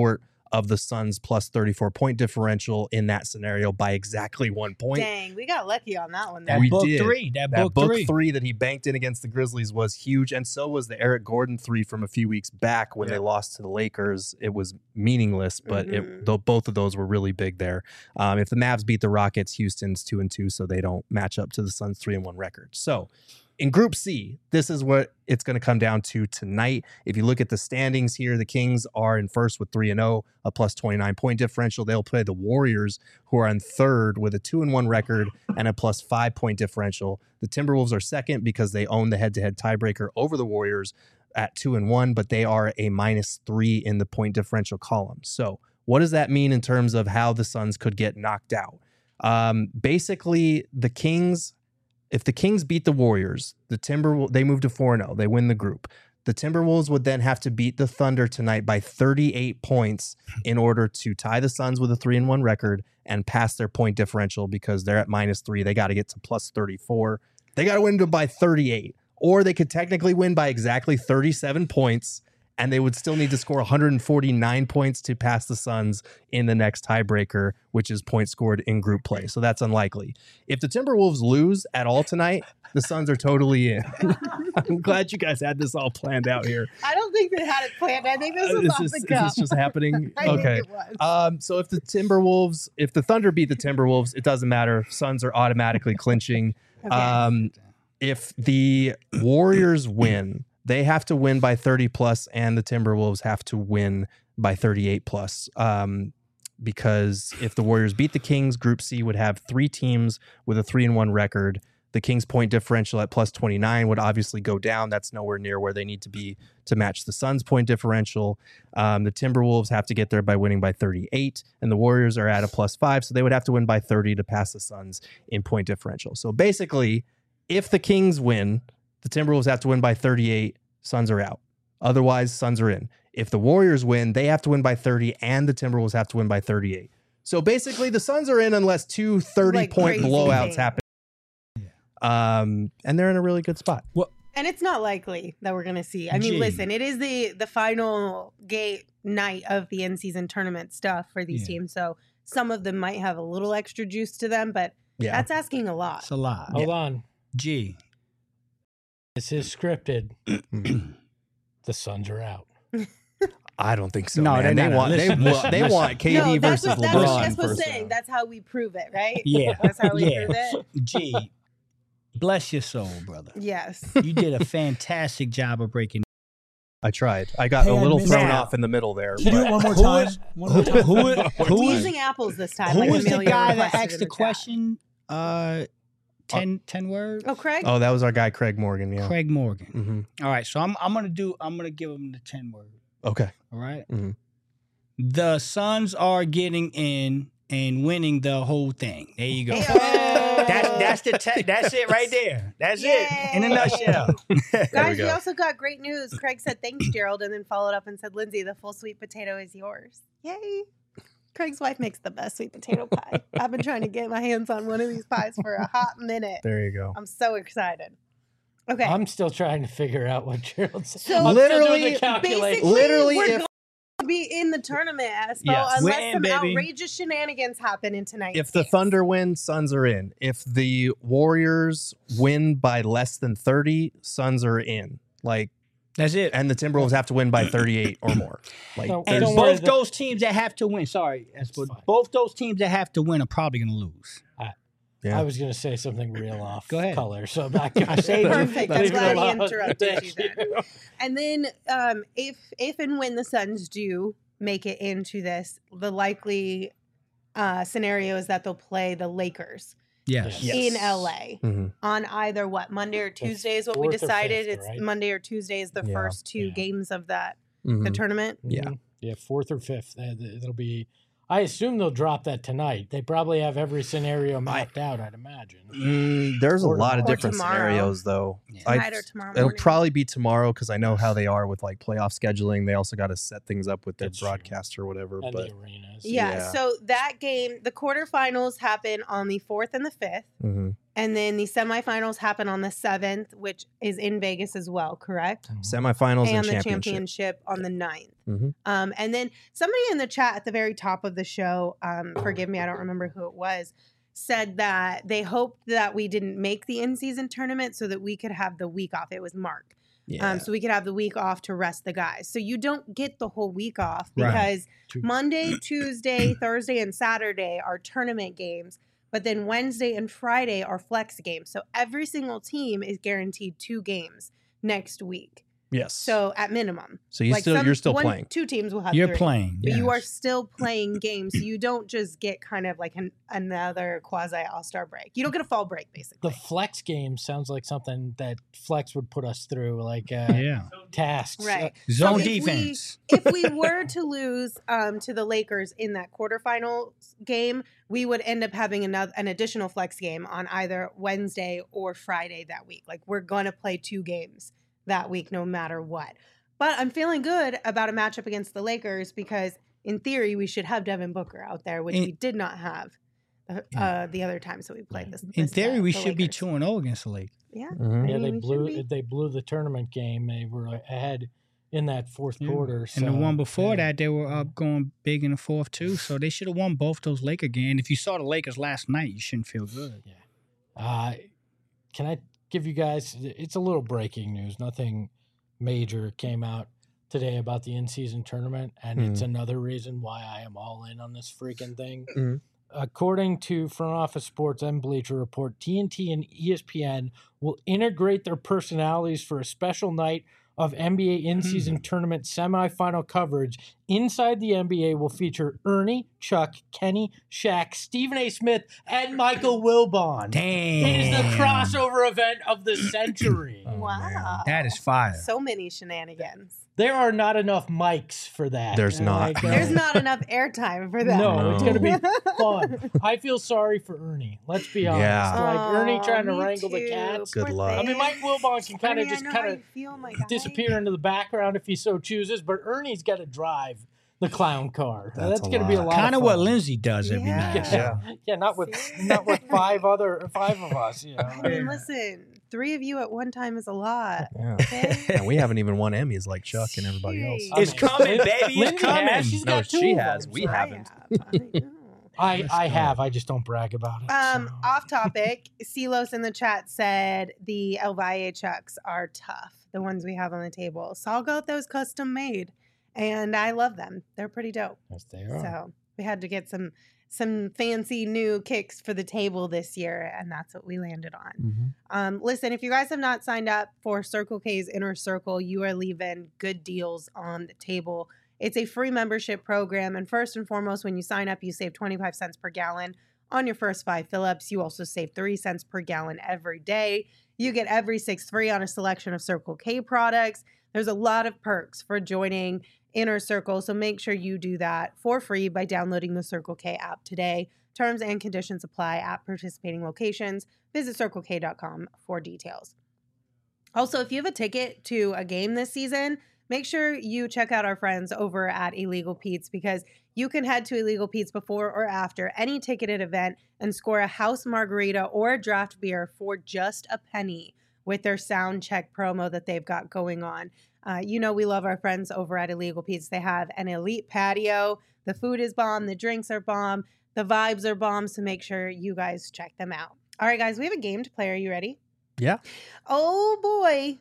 of the Suns plus thirty-four point differential in that scenario by exactly one point. Dang, we got lucky on that one. That There. We book did. three. That, That book, book three. three that he banked in against the Grizzlies was huge, and so was the Eric Gordon three from a few weeks back when Yeah. they lost to the Lakers. It was meaningless, but Mhm. it, though both of those were really big there. Um, if the Mavs beat the Rockets, Houston's two and two, so they don't match up to the Suns' three and one record. So in Group C, this is what it's going to come down to tonight. If you look at the standings here, the Kings are in first with three and zero, a plus twenty-nine point differential. They'll play the Warriors, who are in third with a two and one record and a plus five point differential. The Timberwolves are second because they own the head-to-head tiebreaker over the Warriors at two and one, but they are a minus three in the point differential column. So what does that mean in terms of how the Suns could get knocked out? Um, basically, the Kings. If the Kings beat the Warriors, the Timberwolves, they move to four and oh. They win the group. The Timberwolves would then have to beat the Thunder tonight by thirty-eight points in order to tie the Suns with a three and one record and pass their point differential because they're at minus three. They got to get to plus thirty-four. They got to win by thirty-eight. Or they could technically win by exactly thirty-seven points, and they would still need to score one hundred forty-nine points to pass the Suns in the next tiebreaker, which is points scored in group play. So that's unlikely. If the Timberwolves lose at all tonight, the Suns are totally in. I'm glad you guys had this all planned out here. I don't think they had it planned. I think this Uh, was is, off this, the is cuff. this just happening? I Okay. think it was. Um, so if the Timberwolves, if the Thunder beat the Timberwolves, it doesn't matter. Suns are automatically clinching. Okay. Um, if the Warriors win, they have to win by thirty plus, and the Timberwolves have to win by thirty-eight plus. Um, because if the Warriors beat the Kings, Group C would have three teams with a three and one record. The Kings' point differential at plus twenty-nine would obviously go down. That's nowhere near where they need to be to match the Suns' point differential. Um, the Timberwolves have to get there by winning by thirty-eight, and the Warriors are at a plus five, so they would have to win by thirty to pass the Suns in point differential. So basically, if the Kings win, the Timberwolves have to win by thirty-eight, Suns are out. Otherwise, Suns are in. If the Warriors win, they have to win by thirty, and the Timberwolves have to win by thirty-eight. So basically, the Suns are in unless two thirty-point Like crazy blowouts things. happen. Um, and they're in a really good spot. And it's not likely that we're going to see. I mean, Gee. listen, it is the the final gate night of the in-season tournament stuff for these Yeah. teams. So some of them might have a little extra juice to them, but Yeah. that's asking a lot. It's a lot. Hold on. G. This is scripted. The Suns are out. I don't think so. No, man. they're they not. want they Listen, want listen, they listen. want K D no, that's versus what, that's LeBron. what Jess was first saying. round. That's how we prove it, right? Yeah. That's how we Yeah. prove it. G. Bless your soul, brother. Yes. You did a fantastic job of breaking. I tried. I got Hey, a I little missed thrown that. off in the middle there. Can you do but- it one more Who time? is- One more time. Who, is- We're who is using apples this time. who like was the Amelia guy that requested asked in the chat. question? Uh, ten, ten words. Oh, Craig? Oh, that was our guy Craig Morgan. Yeah. Craig Morgan. hmm All right, so I'm I'm gonna do. I'm gonna give him the ten word. Okay. All right? Mhm. The Suns are getting in and winning the whole thing. There you go. Heyo. That's that's the te- that's it right there. That's it in a Yay. nutshell. Guys, we, go. also got great news. Craig said, thanks, Gerald, and then followed up and said, Lindsay, the full sweet potato is yours. Yay. Craig's wife makes the best sweet potato pie. I've been trying to get my hands on one of these pies for a hot minute. There you go. I'm so excited. Okay. I'm still trying to figure out what Gerald said. So I'm still doing literally- the calculation. Basically, Literally, we're if- going to be in the tournament, Espo, Yes. unless We're in, some baby. outrageous shenanigans happen in tonight's If the games. Thunder win, Suns are in. If the Warriors win by less than thirty, Suns are in. Like, That's it. and the Timberwolves have to win by thirty-eight or more. Like, No, And Don't both worry, the- those teams that have to win, sorry, Espo, fine. both those teams that have to win are probably going to lose. yeah. I was going to say something real off Go ahead. color, so I'm not I going to saved you. Perfect. I'm Leave it glad he alone. interrupted you Thank then. And then um, if if and when the Suns do make it into this, the likely uh, scenario is that they'll play the Lakers Yes. Yes. in L A Mhm. on either what Monday or Tuesday is what we fourth or decided. fifth, it's right? Monday or Tuesday is the Yeah. first two Yeah. games of that Mhm. the tournament. Yeah. Mhm. Yeah, fourth or fifth. Uh, th- It'll be. I assume they'll drop that tonight. They probably have every scenario mapped out. I'd imagine. Mm, there's a Or lot of tomorrow. different Or tomorrow. scenarios, though. Yeah. I- Tonight or tomorrow It'll morning. probably be tomorrow because I know how they are with like playoff scheduling. They also got to set things up with their That's true. broadcast or whatever. And But the arenas. yeah, yeah. So that game, the quarterfinals happen on the fourth and the fifth. mhm. And then the semifinals happen on the seventh, which is in Vegas as well, correct? Semifinals and, And the championship. championship on the ninth. Mhm. Um, and then somebody in the chat at the very top of the show, um, forgive me, I don't remember who it was, said that they hoped that we didn't make the in-season tournament so that we could have the week off. It was Mark. Yeah. Um, so we could have the week off to rest the guys. So you don't get the whole week off Right. because True. Monday, Tuesday, Thursday, and Saturday are tournament games. But then Wednesday and Friday are flex games. So every single team is guaranteed two games next week. yes. So at minimum. So you Like still some- you're still one- playing. Two teams will have You're three. playing. But you are yes. still playing games. So you don't just get kind of like an, another quasi all-star break. You don't get a fall break, basically. The flex game sounds like something that flex would put us through, like uh, Yeah. tasks. Right. Zone if we- defense. if we were to lose um, to the Lakers in that quarterfinal game, we would end up having another an additional flex game on either Wednesday or Friday that week. Like we're going to play two games that week, no matter what. But I'm feeling good about a matchup against the Lakers because, in theory, we should have Devin Booker out there, which In- we did not have uh, uh, the other times that we played this. In this, theory, uh, we the should be Lakers. two and zero against the Lakers. Yeah, Mhm. Yeah, I they mean, we should blew be. they blew the tournament game. They were ahead in that fourth Yeah. quarter. And the so, one before yeah. that, they were up going big in the fourth too. So they should have won both those Laker games. If you saw the Lakers last night, you shouldn't feel good. Uh, can I give you guys? It's a little breaking news. Nothing major came out today about the in-season tournament, and it's another reason why I am all in on this freaking thing. Mhm. According to Front Office Sports and Bleacher Report, T N T and E S P N will integrate their personalities for a special night of N B A in-season tournament semifinal coverage. Inside the N B A will feature Ernie, Chuck, Kenny, Shaq, Stephen A. Smith, and Michael Wilbon. Damn. It is the crossover event of the century. Oh, Wow. man. That is fire. So many shenanigans. There are not enough mics for that. There's And, not. like, uh, There's not enough airtime for that. No, it's No. going to be fun. I feel sorry for Ernie. Let's be honest. Yeah. Like Ernie Aw, trying to me wrangle the too. cats. Good Poor luck. I mean, thing. Mike Wilbon can kind Ernie, of I just know kind how of you feel, my guy. disappear into the background if he so chooses, but Ernie's got to drive the clown car. That's That's, a going to be a lot. lot. Kind of of what fun. Lindsay does every Yeah. night. Yeah, yeah, not with not with five other five of us. You know. I mean, listen, three of you at one time is a lot. Yeah. Okay? And we haven't even won Emmys like Chuck and everybody else. Jeez. It's coming, baby. It's Lindsay coming. has, she's No, got two she of has. them, We so- I haven't. have. I know. I, Let's I go. have. I just don't brag about it. Um, so. off topic, Silos in the chat said the El Valle chucks are tough, the ones we have on the table. So I'll go with those custom made, and I love them. They're pretty dope. Yes, they are. So we had to get some some fancy new kicks for the table this year, and that's what we landed on. Mhm. Um, listen, if you guys have not signed up for Circle K's Inner Circle, you are leaving good deals on the table. It's a free membership program, and first and foremost, when you sign up, you save twenty-five cents per gallon on your first five fill-ups. You also save three cents per gallon every day. You get every six free on a selection of Circle K products. There's a lot of perks for joining Inner Circle, so make sure you do that for free by downloading the Circle K app today. Terms and conditions apply at participating locations. Visit circle k dot com for details. Also, if you have a ticket to a game this season, make sure you check out our friends over at Illegal Pete's because you can head to Illegal Pete's before or after any ticketed event and score a house margarita or a draft beer for just a penny with their sound check promo that they've got going on. Uh, you know, we love our friends over at Illegal Pete's. They have an elite patio. The food is bomb. The drinks are bomb. The vibes are bomb. So make sure you guys check them out. All right, guys, we have a game to play. Are you ready? Yeah. Oh, boy.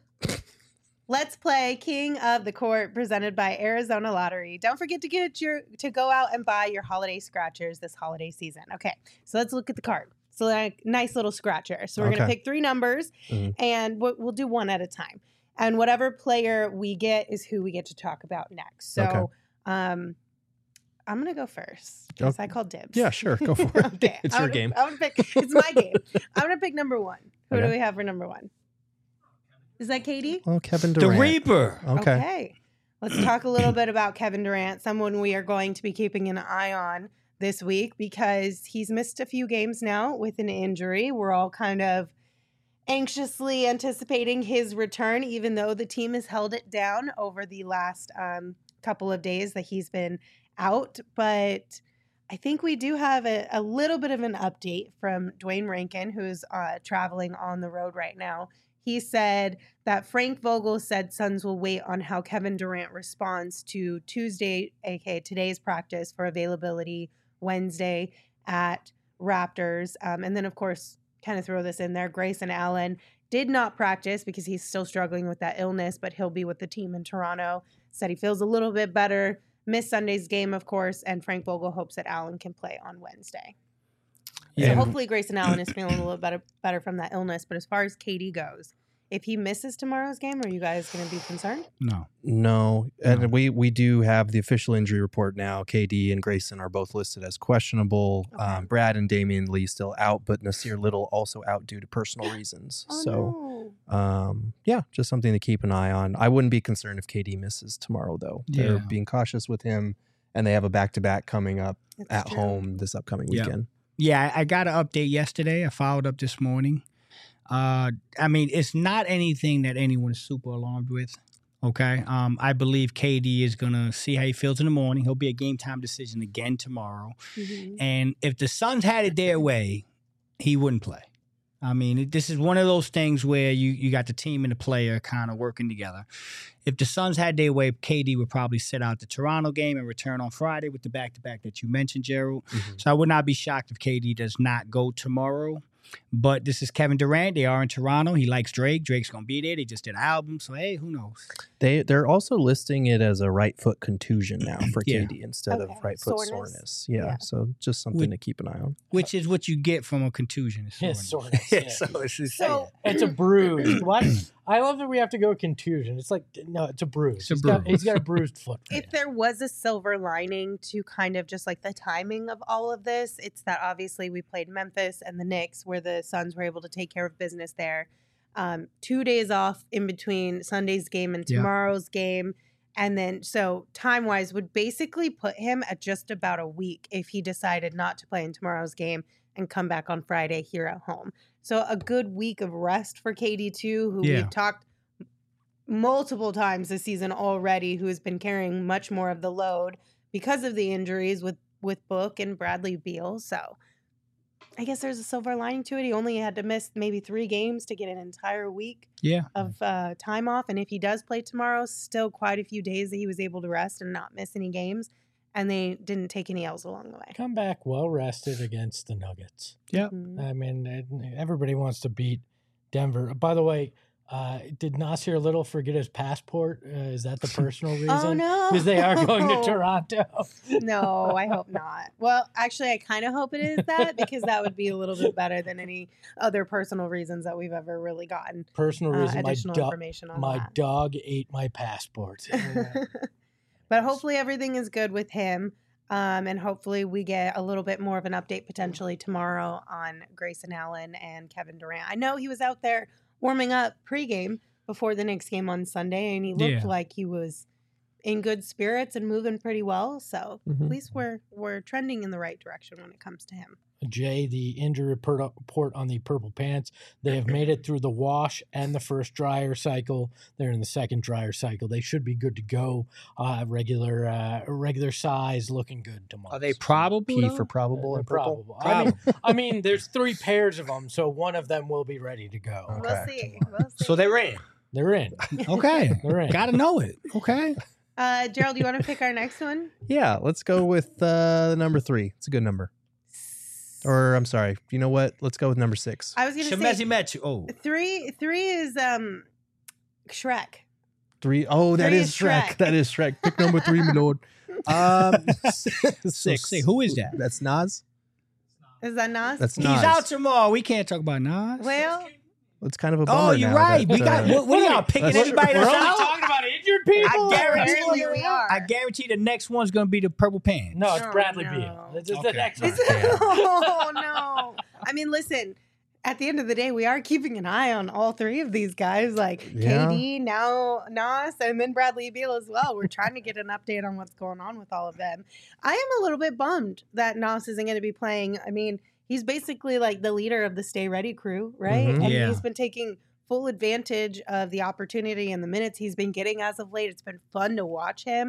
Let's play King of the Court presented by Arizona Lottery. Don't forget to get your to go out and buy your holiday scratchers this holiday season. Okay, so let's look at the card. So like nice little scratcher. So we're gonna Okay. pick three numbers, Mhm. and we'll, we'll do one at a time. And whatever player we get is who we get to talk about next. So Okay. um, I'm gonna go first because Okay. I called dibs. Yeah, sure. Go for it. Okay, It's I'm your gonna- game. I'm gonna pick. It's my game. I'm gonna pick number one. Who do Okay. we have for number one? Is that Katie? Well, Kevin The Durant. Reaper. Okay. Let's talk a little bit about Kevin Durant, someone we are going to be keeping an eye on this week because he's missed a few games now with an injury. We're all kind of anxiously anticipating his return, even though the team has held it down over the last um, couple of days that he's been out. But I think we do have a, a little bit of an update from Dwayne Rankin, who's uh, traveling on the road right now. He said that Frank Vogel said Suns will wait on how Kevin Durant responds to Tuesday, aka today's practice, for availability Wednesday at Raptors. Um, and then, of course, kind of throw this in there, Grayson Allen did not practice because he's still struggling with that illness, but he'll be with the team in Toronto. Said he feels a little bit better. Missed Sunday's game, of course, and Frank Vogel hopes that Allen can play on Wednesday. Yeah. So hopefully Grayson Allen is feeling a little better better from that illness. But as far as K D goes, if he misses tomorrow's game, are you guys going to be concerned? No. No, and No. we we do have the official injury report now. K D and Grayson are both listed as questionable. Okay. Um, Brad and Damian Lee still out, but Nasir Little also out due to personal reasons. Oh, so, no. um, yeah, just something to keep an eye on. I wouldn't be concerned if K D misses tomorrow, though. They're Yeah. being cautious with him, and they have a back to back coming up It's at true. home this upcoming Yeah. weekend. Yeah, I I got an update yesterday. I followed up this morning. Uh, I mean, it's not anything that anyone is super alarmed with. Okay. Um, I believe K D is gonna see how he feels in the morning. He'll be a game time decision again tomorrow. Mhm. And if the Suns had it their way, he wouldn't play. I mean, it- this is one of those things where you you got the team and the player kind of working together. If the Suns had their way, K D would probably sit out the Toronto game and return on Friday with the back-to-back that you mentioned, Gerald. Mhm. So I would not be shocked if K D does not go tomorrow. But this is Kevin Durant. They are in Toronto. He likes Drake. Drake's going to be there. They just did an album. So, hey, who knows? They they're also listing it as a right foot contusion now for Yeah. K D instead Okay. of right foot Soreness. soreness. Yeah, Yeah. so just something Would- to keep an eye on. Which is what you get from a contusion. is Yeah, soreness. soreness, yeah. so it's just, So- It's a bruise. What? I love that we have to go contusion. It's like no, it's a bruise. It's a He's got- bruise. he's got a bruised foot. If there was a silver lining to kind of just like the timing of all of this, it's that obviously we played Memphis and the Knicks, where the Suns were able to take care of business there. Um, two days off in between Sunday's game and Yeah. tomorrow's game. And then, so time wise, would basically put him at just about a week if he decided not to play in tomorrow's game and come back on Friday here at home. So a good week of rest for K D too, who Yeah. we've talked multiple times this season already, who has been carrying much more of the load because of the injuries with with Book and Bradley Beal. So I guess there's a silver lining to it. He only had to miss maybe three games to get an entire week yeah. of uh, time off. And if he does play tomorrow, still quite a few days that he was able to rest and not miss any games. And they didn't take any L's along the way. Come back well rested against the Nuggets. Yep. Mhm. I mean, it- everybody wants to beat Denver. By the way, uh, did Nasir Little forget his passport? Uh, is that the personal reason? Oh, no. Because they are going to Toronto. No, I hope not. Well, actually, I kind of hope it is that, because that would be a little bit better than any other personal reasons that we've ever really gotten Personal uh, reason. My, additional do- information on my that. dog ate my passport. But hopefully everything is good with him. Um, and hopefully we get a little bit more of an update potentially tomorrow on Grayson Allen and Kevin Durant. I know he was out there warming up pregame before the Knicks game on Sunday, and he looked Yeah. like he was in good spirits and moving pretty well. So Mhm. at least we're we're trending in the right direction when it comes to him. Jay, the injury report report on the Purple Pants. They have made it through the wash and the first dryer cycle. They're in the second dryer cycle. They should be good to go. Uh, regular uh, regular size, looking good tomorrow. Are they probable? P though? for probable They're and purple. probable. I mean, I mean, there's three pairs of them, so one of them will be ready to go. We'll Okay. see. We'll see. So they're in. They're in. Okay. They're in. Got to know it. Okay. uh, Gerald, you want to pick our next one? Yeah, let's go with uh, the number three. It's a good number. Or I'm sorry, you know what? Let's go with number six. I was gonna Shemezi say met you. Oh. three. Three is um, Shrek. Three. Oh, that Three is is Shrek. Shrek. That is Shrek. Pick number three, my lord. Um, Six. Say, who is that? That's Nas. Is that Nas? That's He's Nas. out tomorrow. We can't talk about Nas. well. It's kind of a bummer. Oh, you're now right. that, We got. uh, What, what are y'all picking Let's- anybody We're that's only out? talking about injured people. I guarantee Apparently you. we are. I guarantee the next one's gonna be the Purple Pants. No, it's Oh, Bradley no. Beal. It's it's Okay. the next Is one. it- oh no! I mean, listen. At the end of the day, we are keeping an eye on all three of these guys, like Yeah. K D, now Nas, and then Bradley Beal as well. We're trying to get an update on what's going on with all of them. I am a little bit bummed that Nas isn't going to be playing. I mean, he's basically like the leader of the Stay Ready crew, right? Mhm. And Yeah. he's been taking full advantage of the opportunity and the minutes he's been getting as of late. It's been fun to watch him.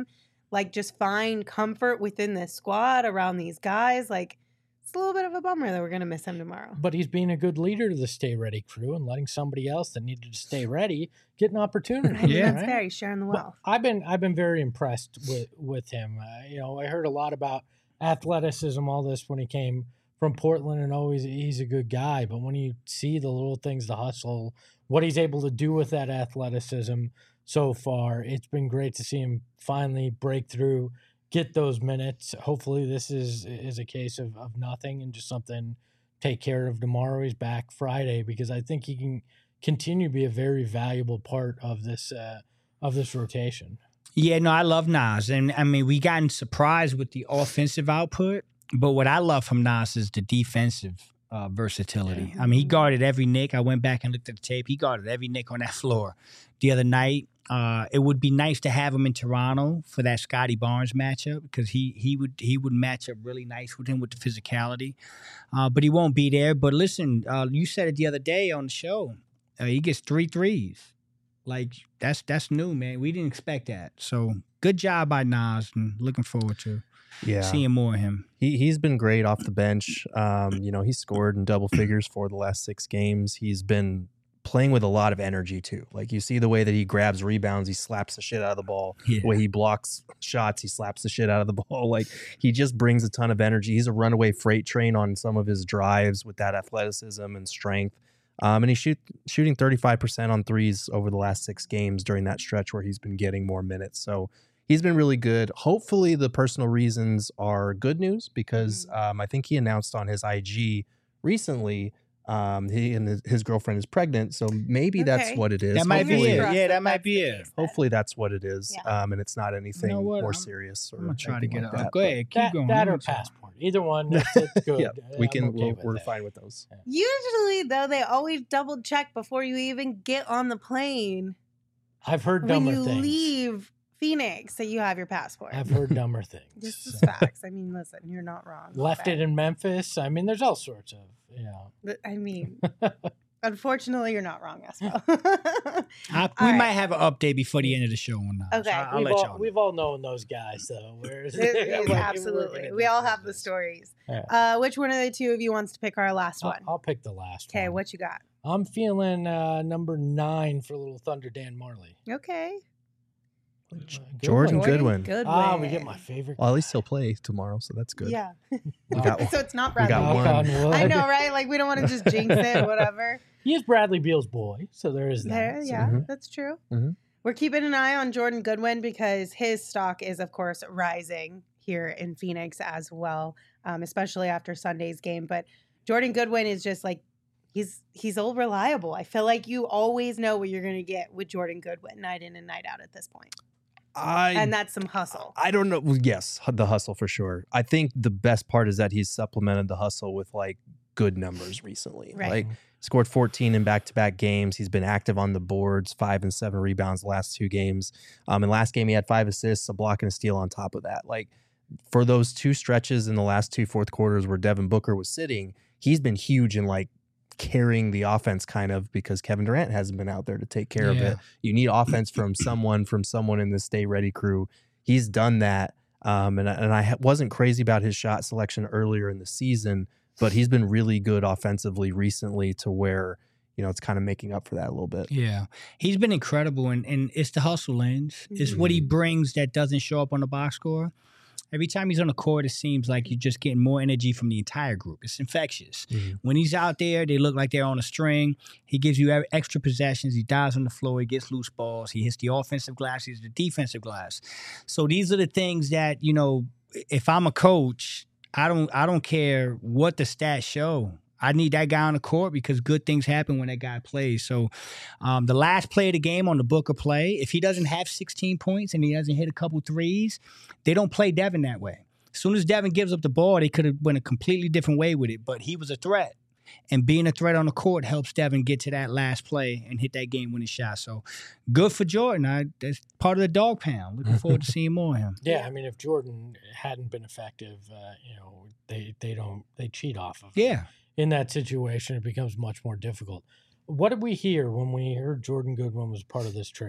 like just find comfort within this squad around these guys. Like, it's a little bit of a bummer that we're going to miss him tomorrow. But he's being a good leader to the Stay Ready crew and letting somebody else that needed to stay ready get an opportunity. I mean, Yeah. that's right? fair. He's sharing the wealth. Well, I've been I've been very impressed with with him. Uh, you know, I heard a lot about athleticism, all this when he came from Portland, and always he's a good guy. But when you see the little things, the hustle, what he's able to do with that athleticism so far, it's been great to see him finally break through, get those minutes. Hopefully, this is is a case of, of nothing and just something take care of tomorrow. He's back Friday because I think he can continue to be a very valuable part of this uh, of this rotation. Yeah, no, I love Nas. And I mean, we gotten surprised with the offensive output, but what I love from Nas is the defensive uh, versatility. I mean, he guarded every nick. I went back and looked at the tape. He guarded every nick on that floor the other night. Uh, it would be nice to have him in Toronto for that Scotty Barnes matchup because he he would he would match up really nice with him with the physicality. Uh, but he won't be there. But listen, uh, you said it the other day on the show. Uh, he gets three threes. Like, that's that's new, man. We didn't expect that. So good job by Nas, and looking forward to Yeah. seeing more of him. He he's been great off the bench. Um, you know, he's scored in double figures for the last six games. He's been playing with a lot of energy too. Like, you see the way that he grabs rebounds, he slaps the shit out of the ball. Yeah. The way he blocks shots, he slaps the shit out of the ball. Like, he just brings a ton of energy. He's a runaway freight train on some of his drives with that athleticism and strength. Um, and he's shoot, shooting thirty-five percent on threes over the last six games during that stretch where he's been getting more minutes. So he's been really good. Hopefully the personal reasons are good news because um, I think he announced on his I G recently um, he and his, his girlfriend is pregnant. So maybe that's Okay. what it is. That might be Fingers it. Hopefully- crossed Yeah, that that might that's be the it. case then. Hopefully that's what it is. Yeah. Um, and it's not anything what? more I'm- serious. Or I'm gonna try to anything get like it. that, Go but- ahead, keep That, going. that or I'm sorry. passport, either one. It's, it's good. Yeah, we I'm can. okay we'll, with we're it. fine with those. Usually, though, they always double check before you even get on the plane I've heard when dumber you things. leave Phoenix that you have your passport. I've heard dumber things. This is So. facts. I mean, listen, you're not wrong. Left it in Memphis. I mean, there's all sorts of, you know. But, I mean, unfortunately, you're not wrong, Espo. I, All we right. might have an update before the end of the show on that. Okay. So I'll, I'll we've, let all, y'all know. we've all known those guys, though. Whereas It- I'm like, absolutely. working in We this all have the business. stories. Yeah. Uh, which one of the two of you wants to pick our last I'll, one? I'll pick the last Okay, one. what you got? I'm feeling uh, number nine for Little Thunder Dan Marley. Okay. Uh, good Jordan one. Goodwin. Goodwin. Ah, we get my favorite. Well, at least he'll play tomorrow, so that's good. Yeah. We got Oh, So it's not We Bradley. got Beal. one. knock on wood. I know, right? Like, we don't want to just jinx it, whatever. He is Bradley Beal's boy, so there is that. There, So- yeah, Mhm. that's true. Mhm. We're keeping an eye on Jordan Goodwin because his stock is, of course, rising here in Phoenix as well, um, especially after Sunday's game. But Jordan Goodwin is just like, he's he's all reliable. I feel like you always know what you're going to get with Jordan Goodwin night in and night out at this point. I And that's some hustle. I don't know. Well, yes, hu- the hustle for sure. I think the best part is that he's supplemented the hustle with like good numbers recently. Right. Like scored fourteen in back-to-back games. He's been active on the boards, five and seven rebounds the last two games. Um, and last game he had five assists, a block and a steal on top of that. Like for those two stretches in the last two fourth quarters where Devin Booker was sitting, he's been huge in like carrying the offense kind of because Kevin Durant hasn't been out there to take care of Yeah. it. You need offense from someone, from someone in the Stay Ready crew. He's done that. Um, and, I- and I ha- wasn't crazy about his shot selection earlier in the season, but he's been really good offensively recently to where, you know, it's kind of making up for that a little bit. Yeah, he's been incredible, and, and it's the hustle lens. It's what he brings that doesn't show up on the box score. Every time he's on the court, it seems like you're just getting more energy from the entire group. It's infectious. Mhm. When he's out there, they look like they're on a string. He gives you e- extra possessions. He dives on the floor. He gets loose balls. He hits the offensive glass. He hits the defensive glass. So these are the things that, you know, if I'm a coach, I don't I don't care what the stats show. I need that guy on the court because good things happen when that guy plays. So um, the last play of the game on the Booker play, if he doesn't have sixteen points and he doesn't hit a couple threes, they don't play Devin that way. As soon as Devin gives up the ball, they could have went a completely different way with it, but he was a threat. And being a threat on the court helps Devin get to that last play and hit that game-winning shot. So good for Jordan. I, that's part of the dog pound. Looking forward to seeing more of him. Yeah, I mean, if Jordan hadn't been effective, uh, you know, they they don't they cheat off of. Yeah. In that situation, it becomes much more difficult. What did we hear when we heard Jordan Goodwin was part of this trade?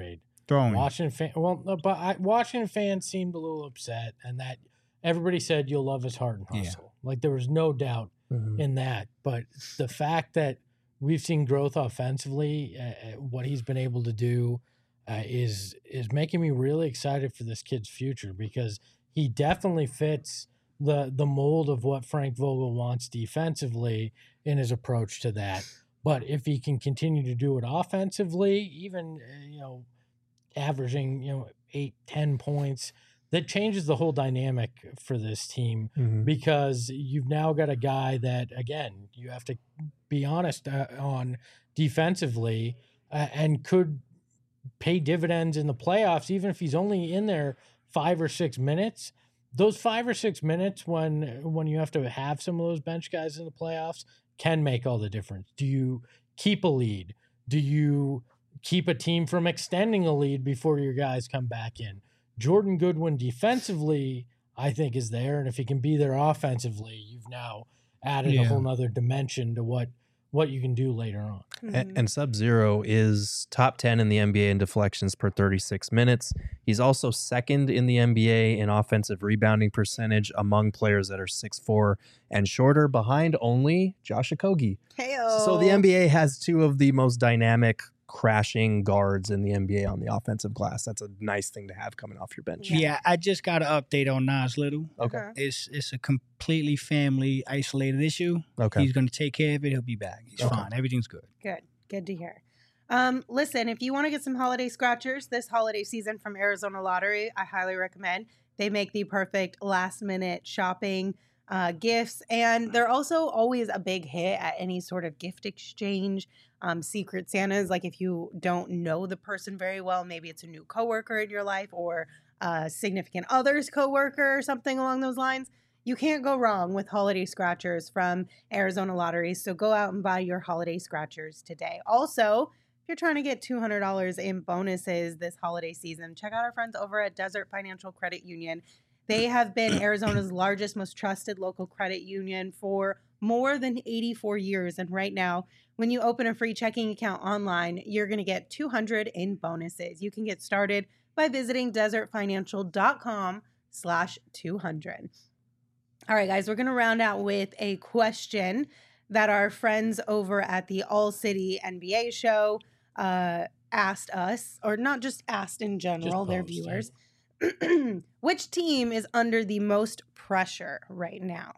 throwing. Washington fan, well, no, but I, Washington fans seemed a little upset, and that everybody said you'll love his heart and hustle. Yeah. Like there was no doubt mm-hmm. in that. But the fact that we've seen growth offensively, uh, what he's been able to do, uh, is is making me really excited for this kid's future because he definitely fits the the mold of what Frank Vogel wants defensively in his approach to that. But if he can continue to do it offensively, even you know, averaging you know eight, ten points, that changes the whole dynamic for this team mm-hmm. because you've now got a guy that again you have to be honest uh, on defensively uh, and could pay dividends in the playoffs, even if he's only in there five or six minutes. Those five or six minutes when when you have to have some of those bench guys in the playoffs can make all the difference. Do you keep a lead? Do you keep a team from extending a lead before your guys come back in? Jordan Goodwin defensively, I think, is there. And if he can be there offensively, you've now added yeah. a whole nother dimension to what what you can do later on. Mm-hmm. And, and Sub-Zero is top ten in the N B A in deflections per thirty-six minutes. He's also second in the N B A in offensive rebounding percentage among players that are six foot four and shorter, behind only Josh Okogie. Hey-o. So the N B A has two of the most dynamic crashing guards in the N B A on the offensive glass. That's a nice thing to have coming off your bench. Yeah, yeah I just got an update on Nas Little. Okay. It's it's a completely family isolated issue. Okay. He's going to take care of it. He'll be back. He's okay. fine. Everything's good. Good. Good to hear. Um, listen, if you want to get some holiday scratchers this holiday season from Arizona Lottery, I highly recommend. They make the perfect last minute shopping uh, gifts, and they're also always a big hit at any sort of gift exchange. Um, Secret Santas, like if you don't know the person very well, maybe it's a new coworker in your life or a significant other's coworker or something along those lines. You can't go wrong with holiday scratchers from Arizona Lottery. So go out and buy your holiday scratchers today. Also, if you're trying to get two hundred dollars in bonuses this holiday season, check out our friends over at Desert Financial Credit Union. They have been Arizona's largest, most trusted local credit union for more than eighty-four years. And right now, when you open a free checking account online, you're going to get two hundred in bonuses. You can get started by visiting desertfinancial.com slash 200. All right, guys, we're going to round out with a question that our friends over at the All City N B A show uh, asked us, or not just asked in general, their viewers. Which team is under the most pressure right now?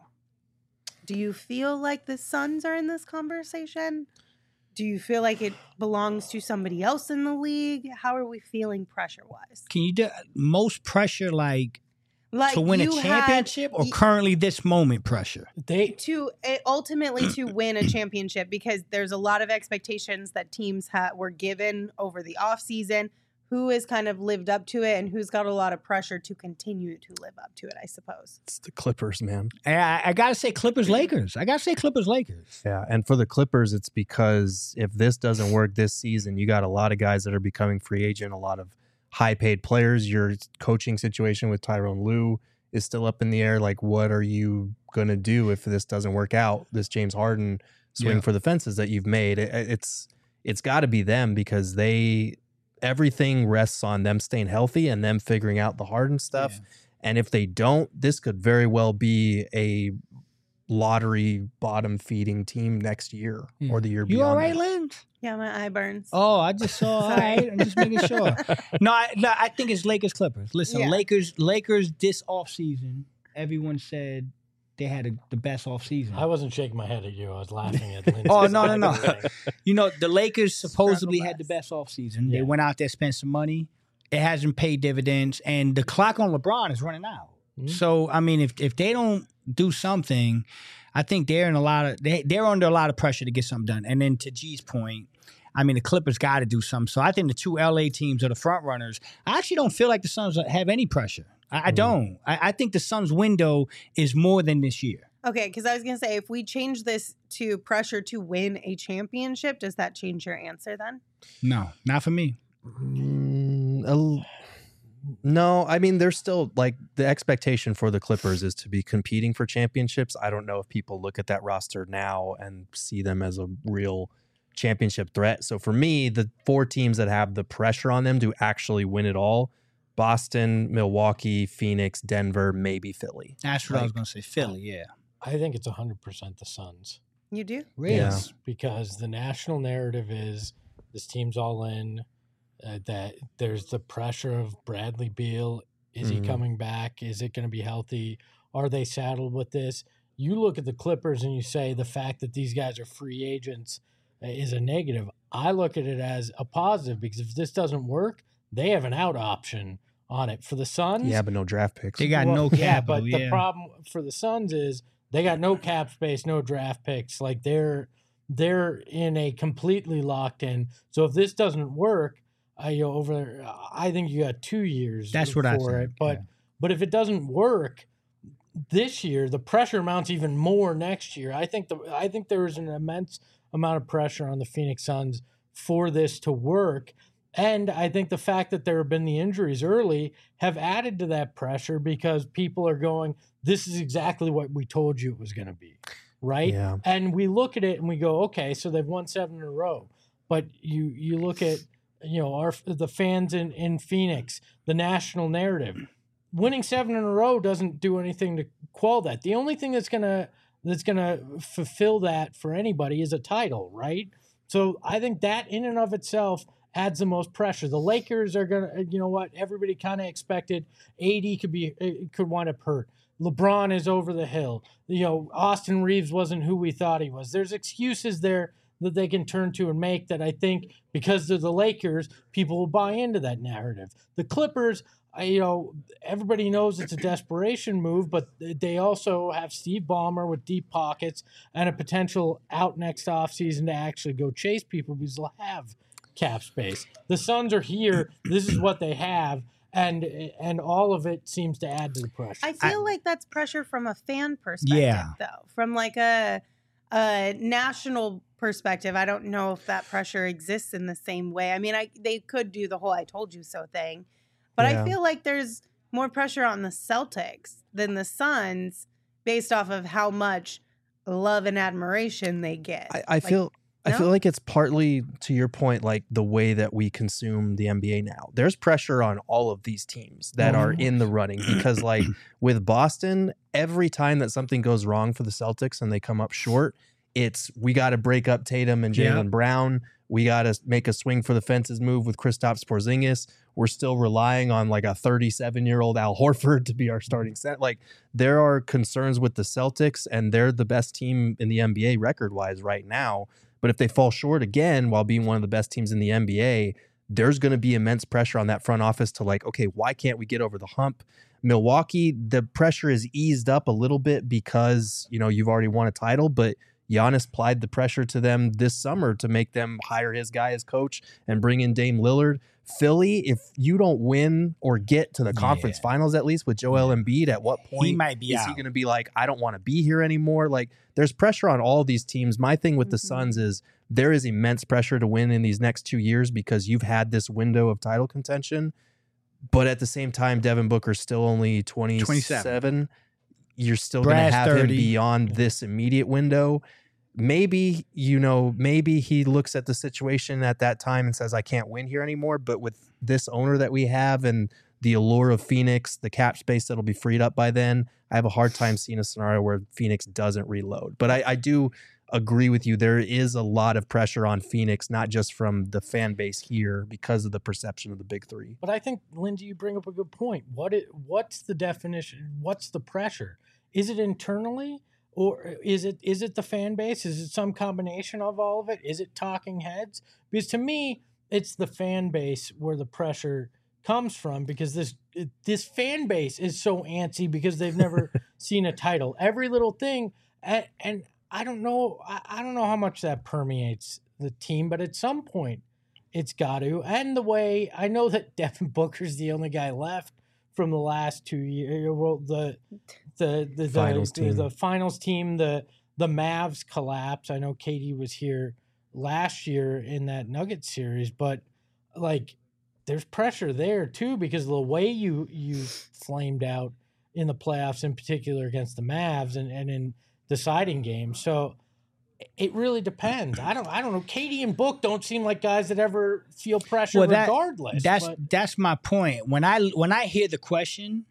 Do you feel like the Suns are in this conversation? Do you feel like it belongs to somebody else in the league? How are we feeling pressure-wise? Can you do most pressure like, like to win a championship had, or currently this moment pressure? They to ultimately to win a championship, because there's a lot of expectations that teams ha- were given over the offseason. Who has kind of lived up to it and who's got a lot of pressure to continue to live up to it, I suppose. It's the Clippers, man. I, I got to say Clippers-Lakers. I got to say Clippers-Lakers. Yeah, and for the Clippers, it's because if this doesn't work this season, you got a lot of guys that are becoming free agent, a lot of high-paid players. Your coaching situation with Tyronn Lue is still up in the air. Like, what are you going to do if this doesn't work out? This James Harden swing yeah. for the fences that you've made, it, it's it's got to be them, because they – everything rests on them staying healthy and them figuring out the Harden stuff. Yeah. And if they don't, this could very well be a lottery bottom feeding team next year yeah. or the year you beyond. You all right, that. Lynn? Yeah, my eye burns. Oh, I just saw. All right, I'm just making sure. No, I, no, I think it's Lakers Clippers. Listen, yeah. Lakers, Lakers this offseason, everyone said they had a, the best offseason. I wasn't shaking my head at you. I was laughing at Lindsay. Oh, no, no, no. You know, the Lakers supposedly had the best offseason. Yeah. They went out there, spent some money. It hasn't paid dividends. And the clock on LeBron is running out. Mm-hmm. So, I mean, if if they don't do something, I think they're in a lot of they, they're under a lot of pressure to get something done. And then to G's point, I mean, the Clippers got to do something. So I think the two L A teams are the front runners. I actually don't feel like the Suns have any pressure. I, I don't. I, I think the Suns' window is more than this year. Okay, because I was going to say, if we change this to pressure to win a championship, does that change your answer then? No, not for me. Mm, uh, no, I mean, there's still, like, the expectation for the Clippers is to be competing for championships. I don't know if people look at that roster now and see them as a real championship threat. So for me, the four teams that have the pressure on them to actually win it all, Boston, Milwaukee, Phoenix, Denver, maybe Philly. That's what like, I was going to say. Philly, yeah. I think it's one hundred percent the Suns. You do? Really? Yeah. Because the national narrative is this team's all in, uh, that there's the pressure of Bradley Beal. Is Mhm. he coming back? Is it going to be healthy? Are they saddled with this? You look at the Clippers and you say the fact that these guys are free agents is a negative. I look at it as a positive because if this doesn't work, they have an out option on it. For the Suns, Yeah, but no draft picks. They got well, no yeah, capital. but Yeah, the problem for the Suns is they got no cap space, no draft picks. Like they're they're in a completely locked in. So if this doesn't work, I you know, over I think you got two years. That's for what I it. think, But yeah. but if it doesn't work this year, the pressure mounts even more next year. I think the I think there is an immense amount of pressure on the Phoenix Suns for this to work. And I think the fact that there have been the injuries early have added to that pressure because people are going, this is exactly what we told you it was going to be, right? Yeah. And we look at it and we go, okay, so they've won seven in a row. But you you look at, you know, our the fans in, in Phoenix, the national narrative. Winning seven in a row doesn't do anything to quell that. The only thing that's gonna that's gonna fulfill that for anybody is a title, right? So I think that in and of itself adds the most pressure. The Lakers are gonna, you know what? Everybody kind of expected A D could be could wind up hurt. LeBron is over the hill. You know, Austin Reeves wasn't who we thought he was. There's excuses there that they can turn to and make that I think because they're the Lakers, people will buy into that narrative. The Clippers, I, you know, everybody knows it's a desperation move, but they also have Steve Ballmer with deep pockets and a potential out next offseason to actually go chase people because they'll have cap space. The Suns are here. This is what they have. And and all of it seems to add to the pressure. I feel like that's pressure from a fan perspective, Yeah. though. From like a a national perspective, I don't know if that pressure exists in the same way. I mean, I they could do the whole "I told you so" thing, but Yeah. I feel like there's more pressure on the Celtics than the Suns, based off of how much love and admiration they get. I, I Like, feel I no? feel like it's partly to your point, like the way that we consume the N B A now. There's pressure on all of these teams that are in the running because, like with Boston, every time that something goes wrong for the Celtics and they come up short, it's we got to break up Tatum and Jalen Yeah. Brown. We got to make a swing for the fences move with Kristaps Porzingis. We're still relying on like a thirty-seven-year-old Al Horford to be our starting set. Like there are concerns with the Celtics, and they're the best team in the N B A record-wise right now. But if they fall short again while being one of the best teams in the N B A, there's going to be immense pressure on that front office to like, okay, why can't we get over the hump? Milwaukee, the pressure is eased up a little bit because, you know, you've already won a title, but Giannis applied the pressure to them this summer to make them hire his guy as coach and bring in Dame Lillard. Philly, if you don't win or get to the conference Yeah. finals at least with Joel Embiid, at what point he might be is out. he going to be like, I don't want to be here anymore? Like, there's pressure on all these teams. My thing with the Mhm. Suns is there is immense pressure to win in these next two years because you've had this window of title contention. But at the same time, Devin Booker's still only twenty-seven. twenty-seven. You're still going to Brad's have thirty. him beyond this immediate window. Maybe, you know, maybe he looks at the situation at that time and says, I can't win here anymore. But with this owner that we have and the allure of Phoenix, the cap space that'll be freed up by then, I have a hard time seeing a scenario where Phoenix doesn't reload. But I, I do agree with you. There is a lot of pressure on Phoenix, not just from the fan base here because of the perception of the big three. But I think, Lindsay, you bring up a good point. What it, what's the definition? What's the pressure? Is it internally, or is it is it the fan base? Is it some combination of all of it? Is it talking heads? Because to me, it's the fan base where the pressure comes from. Because this this fan base is so antsy because they've never seen a title. Every little thing, and, and I don't know, I, I don't know how much that permeates the team, but at some point, it's got to. And the way I know that Devin Booker's the only guy left from the last two years. Well, the the the, Finals the, team. the, the finals team, the the Mavs collapse. I know Katie was here last year in that Nuggets series, but like there's pressure there too because of the way you you flamed out in the playoffs, in particular against the Mavs and, and in deciding games. So It really depends. I don't. I don't know. Katie and Book don't seem like guys that ever feel pressure, Well, that- regardless. That's but- that's my point. When I when I hear the question,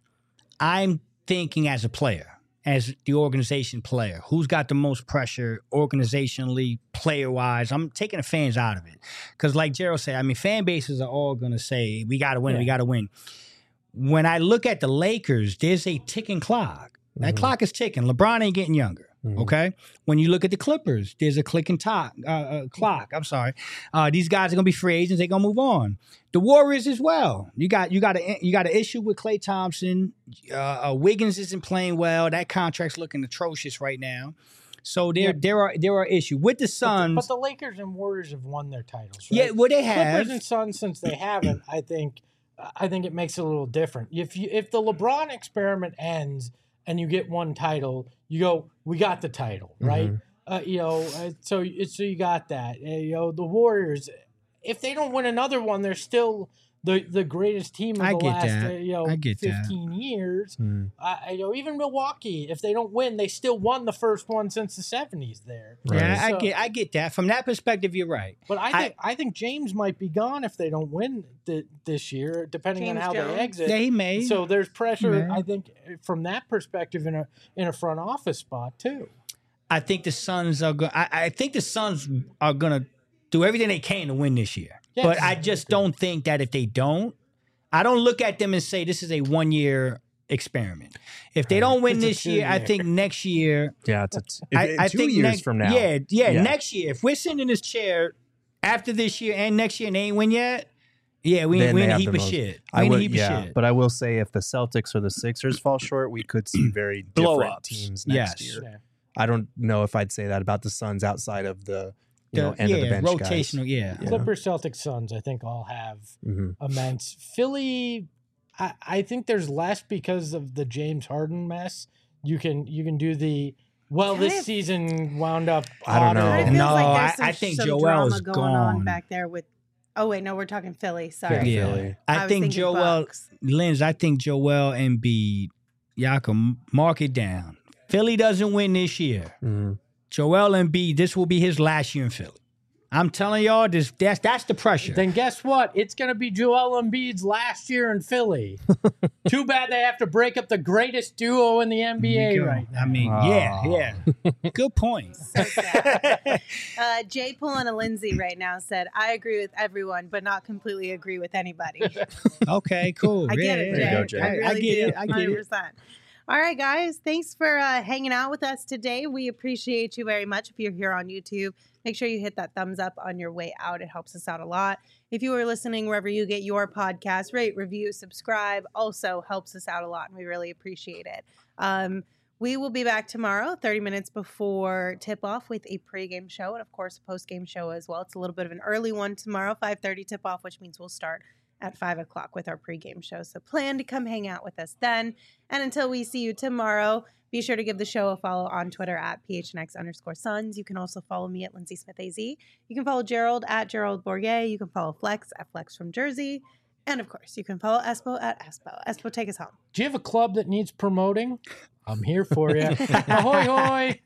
I'm thinking as a player, as the organization player, who's got the most pressure organizationally, player wise. I'm taking the fans out of it because, like Gerald said, I mean, fan bases are all going to say we got to win, Yeah. we got to win. When I look at the Lakers, there's a ticking clock. That Mhm. clock is ticking. LeBron ain't getting younger. Mhm. Okay. When you look at the Clippers, there's a clicking top, uh, uh, clock. I'm sorry. Uh, these guys are gonna be free agents. They're gonna move on. The Warriors as well. You got you got a you got an issue with Klay Thompson. Uh, uh, Wiggins isn't playing well. That contract's looking atrocious right now. So there Yeah. there are there are issues with the But the, Suns. but the Lakers and Warriors have won their titles. Right? Yeah, well they have. Clippers and Suns, since they haven't, I think, I think it makes it a little different. If you if the LeBron experiment ends and you get one title, you go, we got the title, right? Mhm. Uh, you know, uh, so so you got that. Uh, you know, the Warriors, if they don't win another one, they're still the the greatest team of I the get last that. uh, you know I get that. fifteen years. Mhm. Uh, you know, even Milwaukee, if they don't win, they still won the first one since the seventies. There, Yeah, I So- get I get that. From that perspective, you're right. But I I- think I, think James might be gone if they don't win th- this year, depending James on how Jones? they exit. Yeah, he may. So there's pressure, He may. I think, from that perspective in a in a front office spot too. I think the Suns are going. I think the Suns are going to do everything they can to win this year. Yes. But I just don't think that if they don't, I don't look at them and say this is a one year experiment. If they don't win It's a this year, I two-year. think next year. Yeah, it's a t- I, if- I two think years next, from now. Yeah, yeah, Yeah. next year. If we're sitting in this chair after this year and next year and they ain't win yet, yeah, we Then we they in a have heap the of most- shit. I We in a would, heap yeah, of shit. but I will say if the Celtics or the Sixers fall short, we could see very Blow different ups. teams next Yes. year. Yeah. I don't know if I'd say that about the Suns outside of the you know The- end yeah, of the bench rotational. Yeah. Yeah. Clippers, Celtics, Suns, I think all have guys. Mhm. immense. Philly, I, I think there's less because of the James Harden mess. You can you can do the well. Kind This of- season wound up. I don't hotter know. Kind of than- feels No, like I- there's some, I think some Joel's drama going on gone. back there with. Oh wait, no, we're talking Philly. Sorry. Yeah. Yeah. Philly. I, I was think thinking Joel, Bucks. Lens, I think Joel Embiid, y'all can mark it down. Philly doesn't win this year. Mhm. Joel Embiid, this will be his last year in Philly. I'm telling y'all, this that's that's the pressure. Then guess what? It's going to be Joel Embiid's last year in Philly. Too bad they have to break up the greatest duo in the N B There A you go. right now. I mean, yeah, yeah. Good point. So sad. uh, Jay pulling a Lindsay right now said, "I agree with everyone, but not completely agree with anybody." Okay, cool. I get Yeah, it, yeah, Jay. you go, Jay. I I, really I get do. it. I get one hundred it. percent. All right, guys. Thanks for uh, hanging out with us today. We appreciate you very much. If you're here on YouTube, make sure you hit that thumbs up on your way out. It helps us out a lot. If you are listening wherever you get your podcast, rate, review, subscribe. Also helps us out a lot, and we really appreciate it. Um, we will be back tomorrow, thirty minutes before tip-off with a pregame show and, of course, a post-game show as well. It's a little bit of an early one tomorrow, five thirty tip-off, which means we'll start at five o'clock with our pregame show. So plan to come hang out with us then. And until we see you tomorrow, be sure to give the show a follow on Twitter at P H N X underscore Suns. You can also follow me at Lindsay Smith A Z. You can follow Gerald at Gerald Bourget. You can follow Flex at Flex from Jersey. And of course, you can follow Espo at Espo. Espo, take us home. Do you have a club that needs promoting? I'm here for you. Ahoy, hoy.